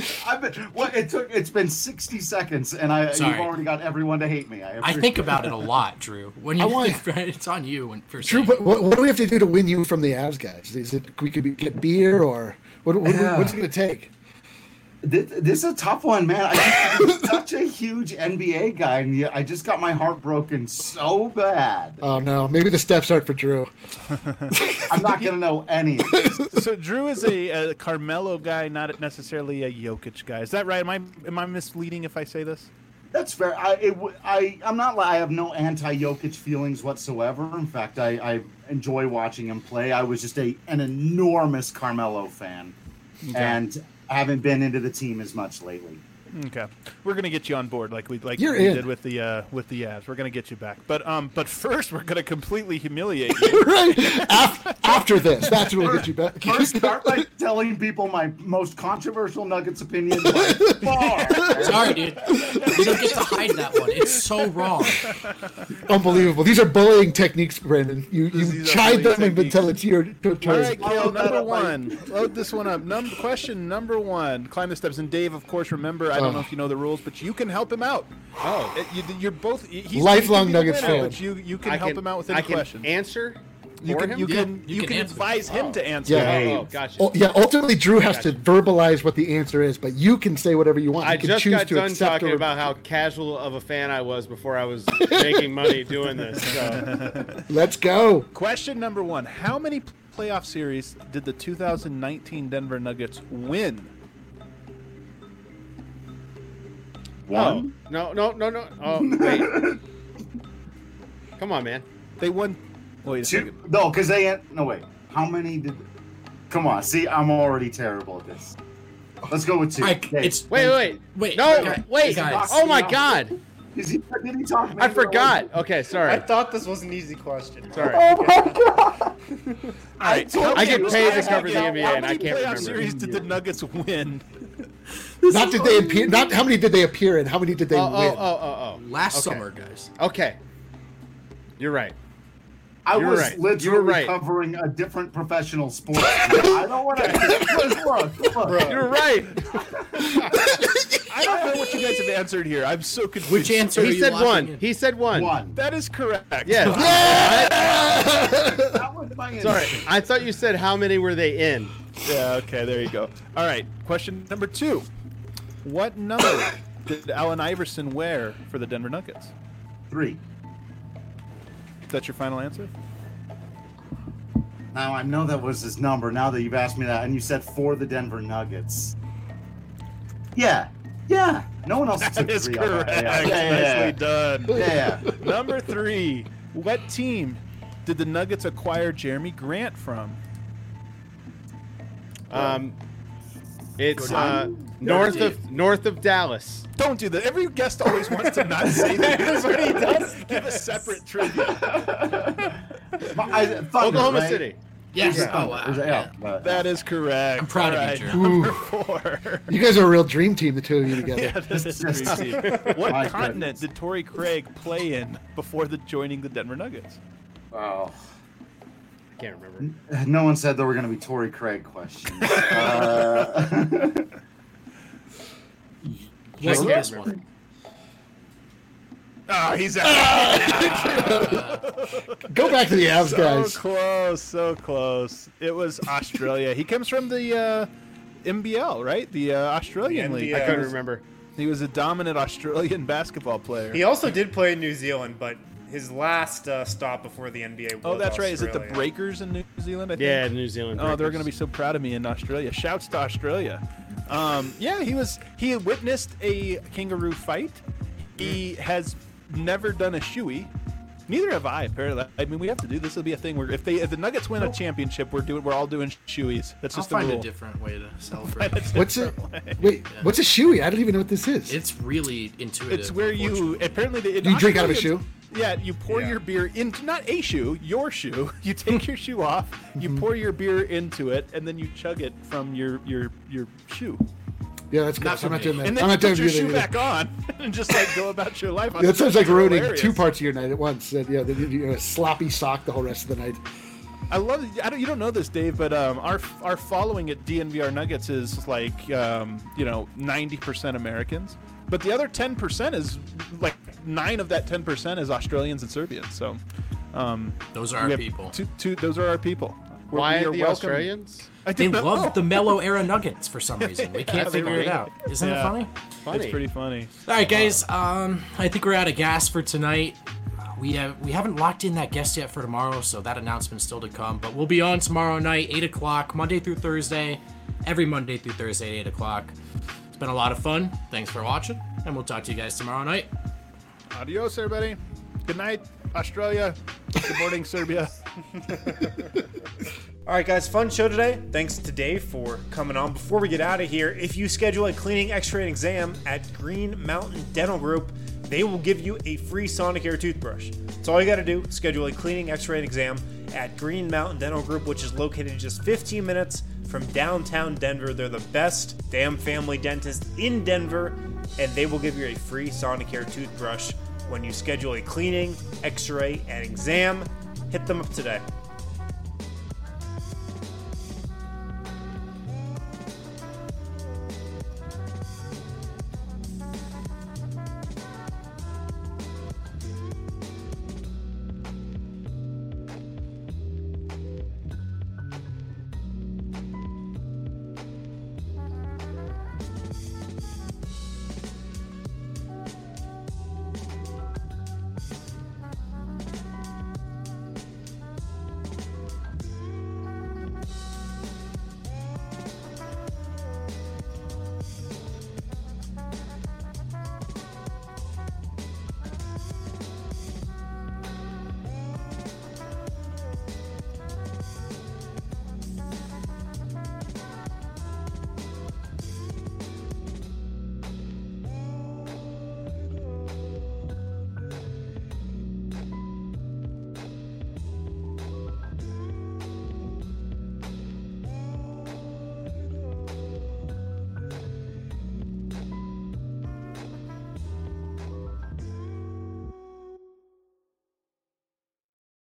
been, well, it took. It's been sixty seconds, and I Sorry. you've already got everyone to hate me. I, I think about it a lot, Drew. When you I want- it's on you. When for Drew, saying what, what, what do we have to do to win you from the Avs guys? Is it we could be, get beer or what? what Yeah. What's it going to take? This, this is a tough one, man. I, I'm such a huge N B A guy, and yet I just got my heart broken so bad. Oh no, maybe the steps aren't for Drew. I'm not gonna know any of this. So Drew is a, a Carmelo guy, not necessarily a Jokic guy. Is that right? Am I am I misleading if I say this? That's fair. I, it, w- I, I'm not. li- I have no anti-Jokic feelings whatsoever. In fact, I, I enjoy watching him play. I was just a an enormous Carmelo fan, and haven't been into the team as much lately. Okay, we're gonna get you on board like we like You're we in. did with the uh, with the Avs. We're gonna get you back, but um, but first we're gonna completely humiliate you. Right after, after this, that's what will get you back. First, start by telling people my most controversial Nuggets opinion by far. sorry, dude. You don't get to hide that one. It's so wrong. Unbelievable. These are bullying techniques, Brandon. You you These are chide them bullying until it's your All turn. right, I'll Kale, load that number up by- one. Load this one up. Num- question number one. Climb the steps. And Dave, of course, remember, I don't Oh. know if you know the rules, but you can help him out. Oh. Uh, you, you're both he's Lifelong he can be the Nuggets winner, fan. But you, you can I help him out with any I can question. answer You for can him? you Yeah, can you you can can answer. advise him Oh. to answer. Yeah. Oh, Hey. oh, gotcha. Oh, yeah, ultimately, Drew has to verbalize what the answer is, but you can say whatever you want. I You can just choose got to done accept talking or- about how casual of a fan I was before I was making money doing this. So Let's go. Question number one: how many playoff series did the two thousand nineteen Denver Nuggets win? One. Oh, no, no, no, no. Oh, wait. Come on, man. They won. Wait a Two. second. No, because they ain't. No, wait. How many did? Come on. See, I'm already terrible at this. Let's go with two. I, Okay. it's Wait, wait, wait. No, guys, wait. guys. Oh my God. Is he, did he talk? I forgot. Okay, I sorry. thought this was an easy question. Sorry. Oh my god! All right. told I get you, paid to I- cover the I- N B A, How and I many can't playoff remember. series did the Nuggets win? Not did they appear. Not how many did they appear in? How many did they Oh, win? oh, oh, oh, oh. Last Okay. summer, guys. Okay. You're right. I You're was right. literally You're right. covering a different professional sport. I don't want to. Look, look. You're right. I don't know what you guys have answered here. I'm so confused. Which answer? are He you said locking one. in? He said one. One. That is correct. Yes. That was my answer. Sorry. I thought you said how many were they in? Yeah, okay, there you go. All right, question number two. What number did Allen Iverson wear for the Denver Nuggets? Three. Is that your final answer? Now I know that was his number. Now that you've asked me that, and you said for the Denver Nuggets. Yeah. Yeah. No one else took That is three on correct. that. Yeah, yeah, yeah, Nicely done. yeah. yeah. Number three. What team did the Nuggets acquire Jeremy Grant from? Um, it's Go uh, down. north Go of north of Dallas. Don't do that. Every guest always wants to not say that. That's what he does. Give a separate trivia. I, Thunder, Oklahoma right? City. Yes. Yeah. Oh, wow. Is it- Yeah. yeah. That is correct. I'm proud All of you, right, Drew. Number four. You guys are a real dream team, the two of you together. Yeah, this is a dream team. What My continent goodness. did Torrey Craig play in before the joining the Denver Nuggets? Wow. I can't remember. No one said there were going to be Torrey Craig questions. uh, Wasn't I this can't one? Oh, he's out. Go back to the Avs, So guys. close, so close. It was Australia. He comes from the uh, M B L, right? The uh, Australian The league. N B L. I couldn't remember. He was a dominant Australian basketball player. He also did play in New Zealand, but his last uh, stop before the N B A was oh, that's right. Is it the Australia. Breakers in New Zealand? I think? Yeah, New Zealand. Oh, they're Breakers. going to be so proud of me in Australia. Shouts to Australia. Um, yeah, he was. He witnessed a kangaroo fight. He has never done a shoey. Neither have I. Apparently, I mean, we have to do this. Will be a thing where if they if the Nuggets win a championship, we're doing we're all doing shoeys. That's I'll just the find rule. a different way to celebrate. That's What's it? different way. Wait, what's a shoey? I don't even know what this is. It's really intuitive. It's where you unfortunately. apparently they, in Do you drink out of a Australia, shoe? Yeah, you pour Yeah. your beer into not a shoe, your shoe. You take your shoe off, you pour your beer into it, and then you chug it from your your your shoe. Yeah, that's good. Not So I'm for not me. doing that. And then I'm you not doing put your that shoe either. back on and just like go about your life. That sounds like That's ruining hilarious. two parts of your night at once. That, yeah, that you're a sloppy sock the whole rest of the night. I love. I don't, you don't know this, Dave, but um, our our following at D N V R Nuggets is like um, you know ninety percent Americans, but the other ten percent is like nine of that ten percent is Australians and Serbians. So um, those are our people. Two, two, those are our people. We're, Why we are the welcome. Australians? I They didn't love know. the Mellow era Nuggets for some reason. We can't Yeah, figure funny. it out. Isn't Yeah. it funny? Funny. It's pretty funny. All right, guys. Um, I think we're out of gas for tonight. We have we haven't locked in that guest yet for tomorrow, so that announcement's still to come. But we'll be on tomorrow night, eight o'clock, Monday through Thursday, every Monday through Thursday, at eight o'clock. It's been a lot of fun. Thanks for watching, and we'll talk to you guys tomorrow night. Adios, everybody. Good night, Australia. Good morning, Serbia. All right, guys, fun show today. Thanks to Dave for coming on. Before we get out of here, if you schedule a cleaning, x-ray, and exam at Green Mountain Dental Group, they will give you a free Sonicare toothbrush. That's all you got to do. Schedule a cleaning, x-ray, and exam at Green Mountain Dental Group, which is located just fifteen minutes from downtown Denver. They're the best damn family dentist in Denver, and they will give you a free Sonicare toothbrush when you schedule a cleaning, x-ray, and exam. Hit them up today.